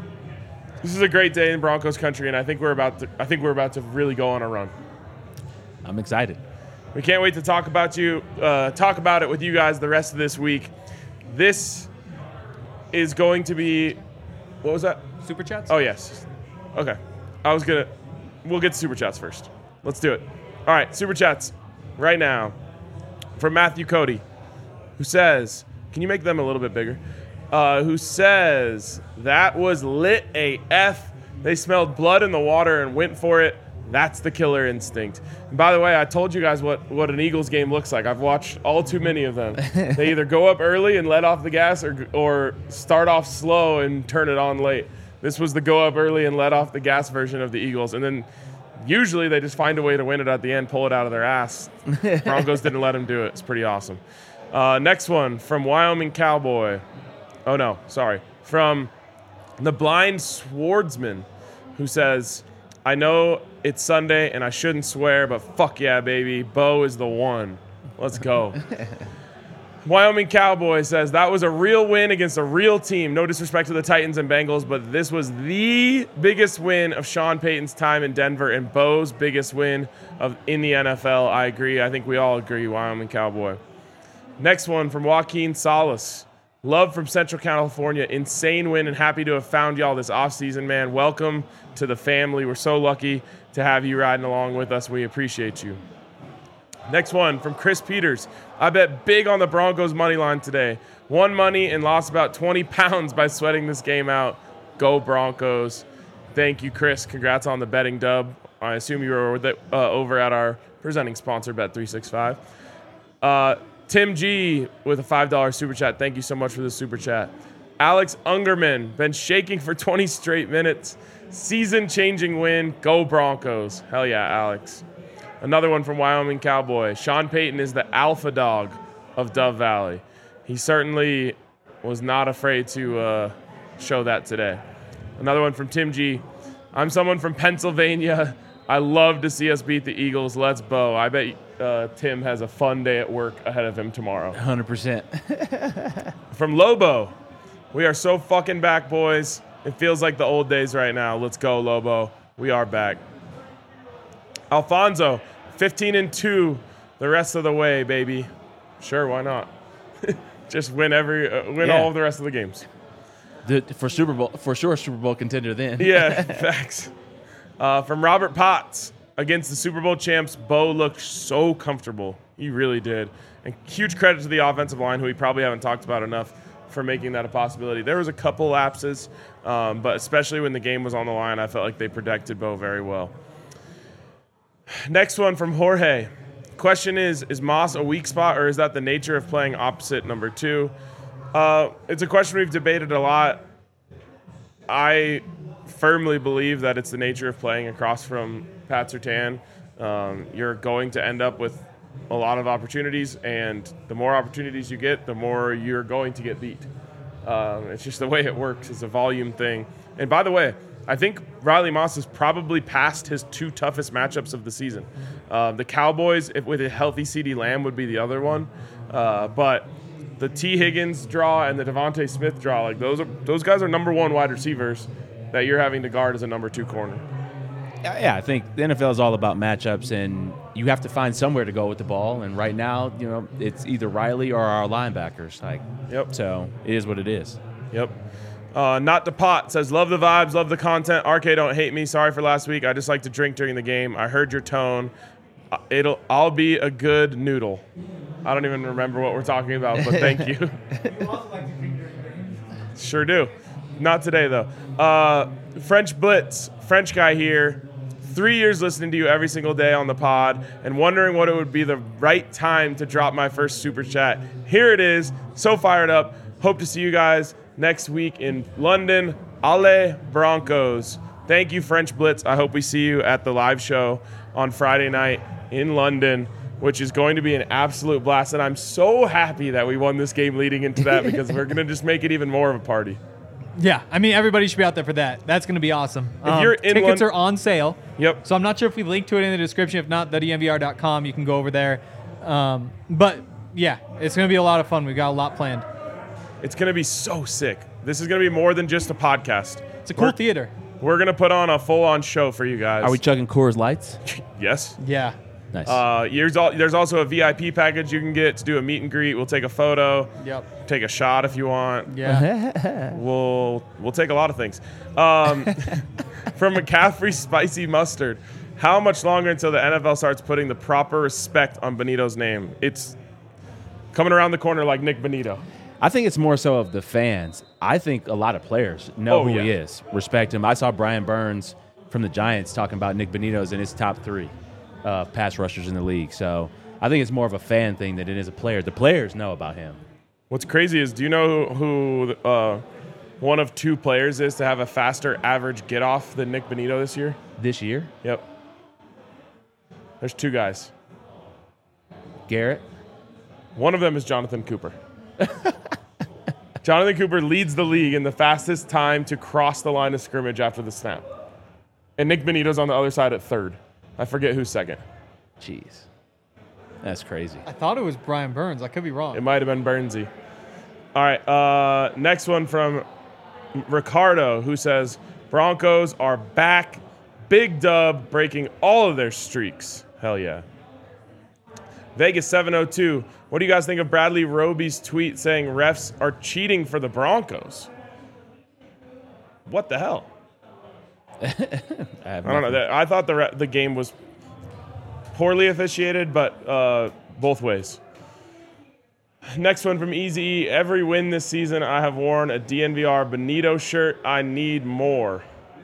great day in Broncos country, and I think we're about to really go on a run. I'm excited. We can't wait to talk about it with you guys the rest of this week. This is going to be, what was that? Super Chats? Oh, yes. Okay. We'll get to Super Chats first. Let's do it. All right, Super Chats right now. From Matthew Cody, who says, can you make them a little bit bigger? Who says, that was lit AF. They smelled blood in the water and went for it. That's the killer instinct. And by the way, I told you guys what an Eagles game looks like. I've watched all too many of them. They either go up early and let off the gas or start off slow and turn it on late. This was the go up early and let off the gas version of the Eagles. And then usually they just find a way to win it at the end, pull it out of their ass. Broncos didn't let them do it. It's pretty awesome. Next one from Wyoming Cowboy. Oh, no, sorry. From the Blind Swordsman, who says, I know it's Sunday and I shouldn't swear, but fuck yeah, baby. Bo is the one. Let's go. Wyoming Cowboy says, that was a real win against a real team. No disrespect to the Titans and Bengals, but this was the biggest win of Sean Payton's time in Denver and Bo's biggest win in the NFL. I agree. I think we all agree, Wyoming Cowboy. Next one from Joaquin Salas. Love from Central California. Insane win and happy to have found y'all this offseason, man. Welcome to the family. We're so lucky to have you riding along with us. We appreciate you. Next one from Chris Peters. I bet big on the Broncos money line today. Won money and lost about 20 pounds by sweating this game out. Go Broncos. Thank you, Chris. Congrats on the betting dub. I assume you were over at our presenting sponsor, Bet365. Tim G with a $5 super chat. Thank you so much for the super chat. Alex Ungerman, been shaking for 20 straight minutes. Season-changing win. Go Broncos. Hell yeah, Alex. Another one from Wyoming Cowboy. Sean Payton is the alpha dog of Dove Valley. He certainly was not afraid to show that today. Another one from Tim G. I'm someone from Pennsylvania. I love to see us beat the Eagles. Let's Bo. I bet Tim has a fun day at work ahead of him tomorrow. 100%. From Lobo. We are so fucking back, boys. It feels like the old days right now. Let's go, Lobo. We are back. Alfonso, 15-2 the rest of the way, baby. Sure, why not? Just win all of the rest of the games. For sure, Super Bowl contender then. Yeah, facts. From Robert Potts, against the Super Bowl champs, Bo looked so comfortable. He really did. And huge credit to the offensive line, who we probably haven't talked about enough, for making that a possibility. There was a couple lapses, but especially when the game was on the line, I felt like they protected Bo very well. Next one from Jorge. Question is Moss a weak spot, or is that the nature of playing opposite number 2? It's a question we've debated a lot. I firmly believe that it's the nature of playing across from Pat Surtain. You're going to end up with a lot of opportunities, and the more opportunities you get, the more you're going to get beat. It's just the way it works. It's a volume thing. And by the way, I think Riley Moss has probably passed his 2 toughest matchups of the season. The Cowboys, with a healthy CeeDee Lamb, would be the other one. But the T. Higgins draw and the Devontae Smith draw, like those guys are number 1 wide receivers that you're having to guard as a number 2 corner. Yeah, I think the NFL is all about matchups, and you have to find somewhere to go with the ball. And right now, it's either Riley or our linebackers. Yep. So it is what it is. Yep. Not the pot says, love the vibes, love the content. RK, don't hate me. Sorry for last week. I just like to drink during the game. I heard your tone. I'll be a good noodle. I don't even remember what we're talking about, but thank you. Sure do. Not today, though. French Blitz, French guy here. 3 years listening to you every single day on the pod and wondering what it would be the right time to drop my first super chat. Here it is. So fired up. Hope to see you guys next week in London. Allez Broncos. Thank you, French Blitz. I hope we see you at the live show on Friday night in London, which is going to be an absolute blast. And I'm so happy that we won this game leading into that because we're going to just make it even more of a party. Yeah, I mean, everybody should be out there for that. That's going to be awesome. If you're in tickets are on sale. Yep. So I'm not sure if we link to it in the description. If not, thednvr.com. You can go over there. But, yeah, it's going to be a lot of fun. We've got a lot planned. It's going to be so sick. This is going to be more than just a podcast. It's a cool theater. We're going to put on a full-on show for you guys. Are we chugging Coors Lights? Yes. Yeah. Nice. There's also a VIP package you can get to do a meet and greet. We'll take a photo. Yep. Take a shot if you want. Yeah. We'll take a lot of things. From McCaffrey Spicy Mustard. How much longer until the NFL starts putting the proper respect on Benito's name? It's coming around the corner like Nick Benito. I think it's more so of the fans. I think a lot of players know who he is, respect him. I saw Brian Burns from the Giants talking about Nick Benito's in his top 3 pass rushers in the league. So I think it's more of a fan thing than it is a player. The players know about him. What's crazy is, do you know who one of 2 players is to have a faster average get-off than Nick Benito this year? This year? Yep. There's 2 guys. Garrett? One of them is Jonathan Cooper. Jonathan Cooper leads the league in the fastest time to cross the line of scrimmage after the snap. And Nick Benito's on the other side at 3rd. I forget who's 2nd. Jeez. That's crazy. I thought it was Brian Burns. I could be wrong. It might have been Burnsy. All right, next one from Ricardo, who says, Broncos are back. Big dub, breaking all of their streaks. Hell yeah. Vegas 702. What do you guys think of Bradley Roby's tweet saying refs are cheating for the Broncos? What the hell? I don't know. I thought the game was poorly officiated, but both ways. Next one from Easy. Every win this season, I have worn a DNVR Benito shirt. I need more.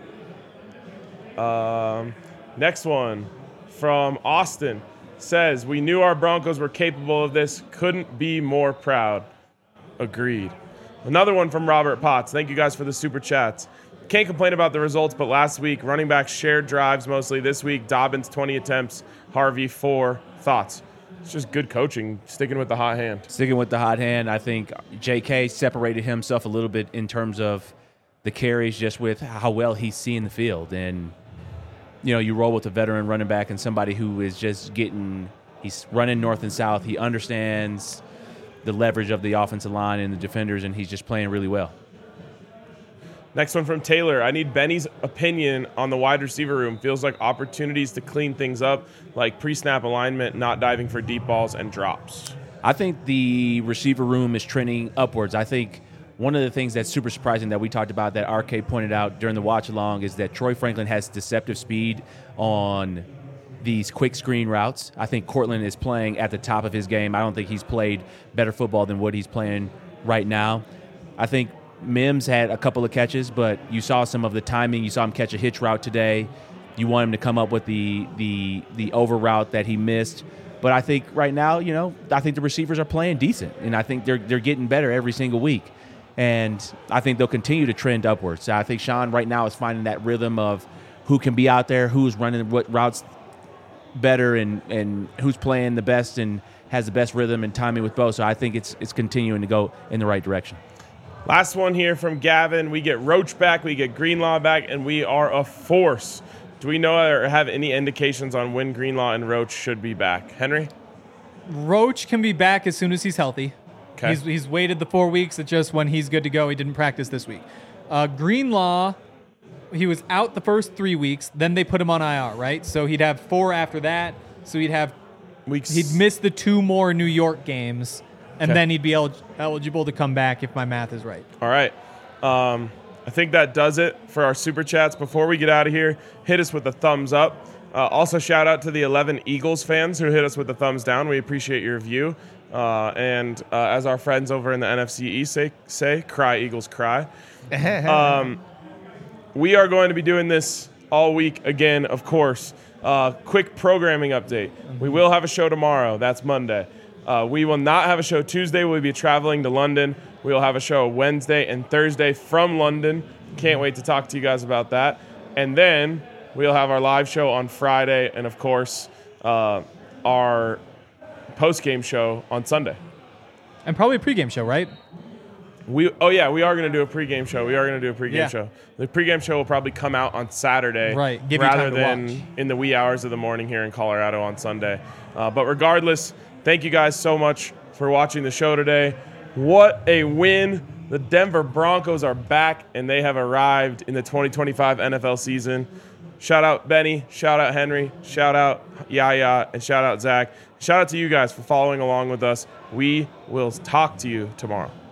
Next one from Austin says, we knew our Broncos were capable of this. Couldn't be more proud. Agreed. Another one from Robert Potts. Thank you guys for the super chats. Can't complain about the results, but last week, running backs shared drives mostly. This week, Dobbins 20 attempts, Harvey 4. Thoughts? It's just good coaching, sticking with the hot hand. Sticking with the hot hand. I think J.K. separated himself a little bit in terms of the carries, just with how well he's seeing the field. And, you roll with a veteran running back and somebody who is just he's running north and south. He understands the leverage of the offensive line and the defenders, and he's just playing really well. Next one from Taylor. I need Benny's opinion on the wide receiver room. Feels like opportunities to clean things up, like pre-snap alignment, not diving for deep balls, and drops. I think the receiver room is trending upwards. I think one of the things that's super surprising that we talked about that RK pointed out during the watch-along is that Troy Franklin has deceptive speed on these quick screen routes. I think Cortland is playing at the top of his game. I don't think he's played better football than what he's playing right now. I think Mims had a couple of catches, but you saw some of the timing. You saw him catch a hitch route today. You want him to come up with the over route that he missed. But I think right now, I think the receivers are playing decent, and I think they're getting better every single week. And I think they'll continue to trend upwards. I think Sean right now is finding that rhythm of who can be out there, who's running what routes better, and who's playing the best and has the best rhythm and timing with both. So I think it's continuing to go in the right direction. Last one here from Gavin. We get Roach back, we get Greenlaw back, and we are a force. Do we know or have any indications on when Greenlaw and Roach should be back? Henry? Roach can be back as soon as he's healthy. Okay. He's waited the 4 weeks. It's just when he's good to go. He didn't practice this week. Greenlaw, he was out the first 3 weeks. Then they put him on IR, right? So he'd have 4 after that. So he'd miss the 2 more New York games, and then he'd be eligible to come back if my math is right. All right. I think that does it for our Super Chats. Before we get out of here, hit us with a thumbs up. Also, shout out to the 11 Eagles fans who hit us with a thumbs down. We appreciate your view. And as our friends over in the NFC East say, cry, Eagles, cry. We are going to be doing this all week again, of course. Quick programming update. We will have a show tomorrow. That's Monday. We will not have a show Tuesday. We'll be traveling to London. We will have a show Wednesday and Thursday from London. Can't wait to talk to you guys about that. And then we'll have our live show on Friday and, of course, our post-game show on Sunday. And probably a pregame show, right? We are going to do a pregame show. Show. The pregame show will probably come out on Saturday, right? Rather than in the wee hours of the morning here in Colorado on Sunday. But regardless, thank you guys so much for watching the show today. What a win! The Denver Broncos are back, and they have arrived in the 2025 NFL season. Shout out Benny, shout out Henry, shout out Yaya, and shout out Zach. Shout out to you guys for following along with us. We will talk to you tomorrow.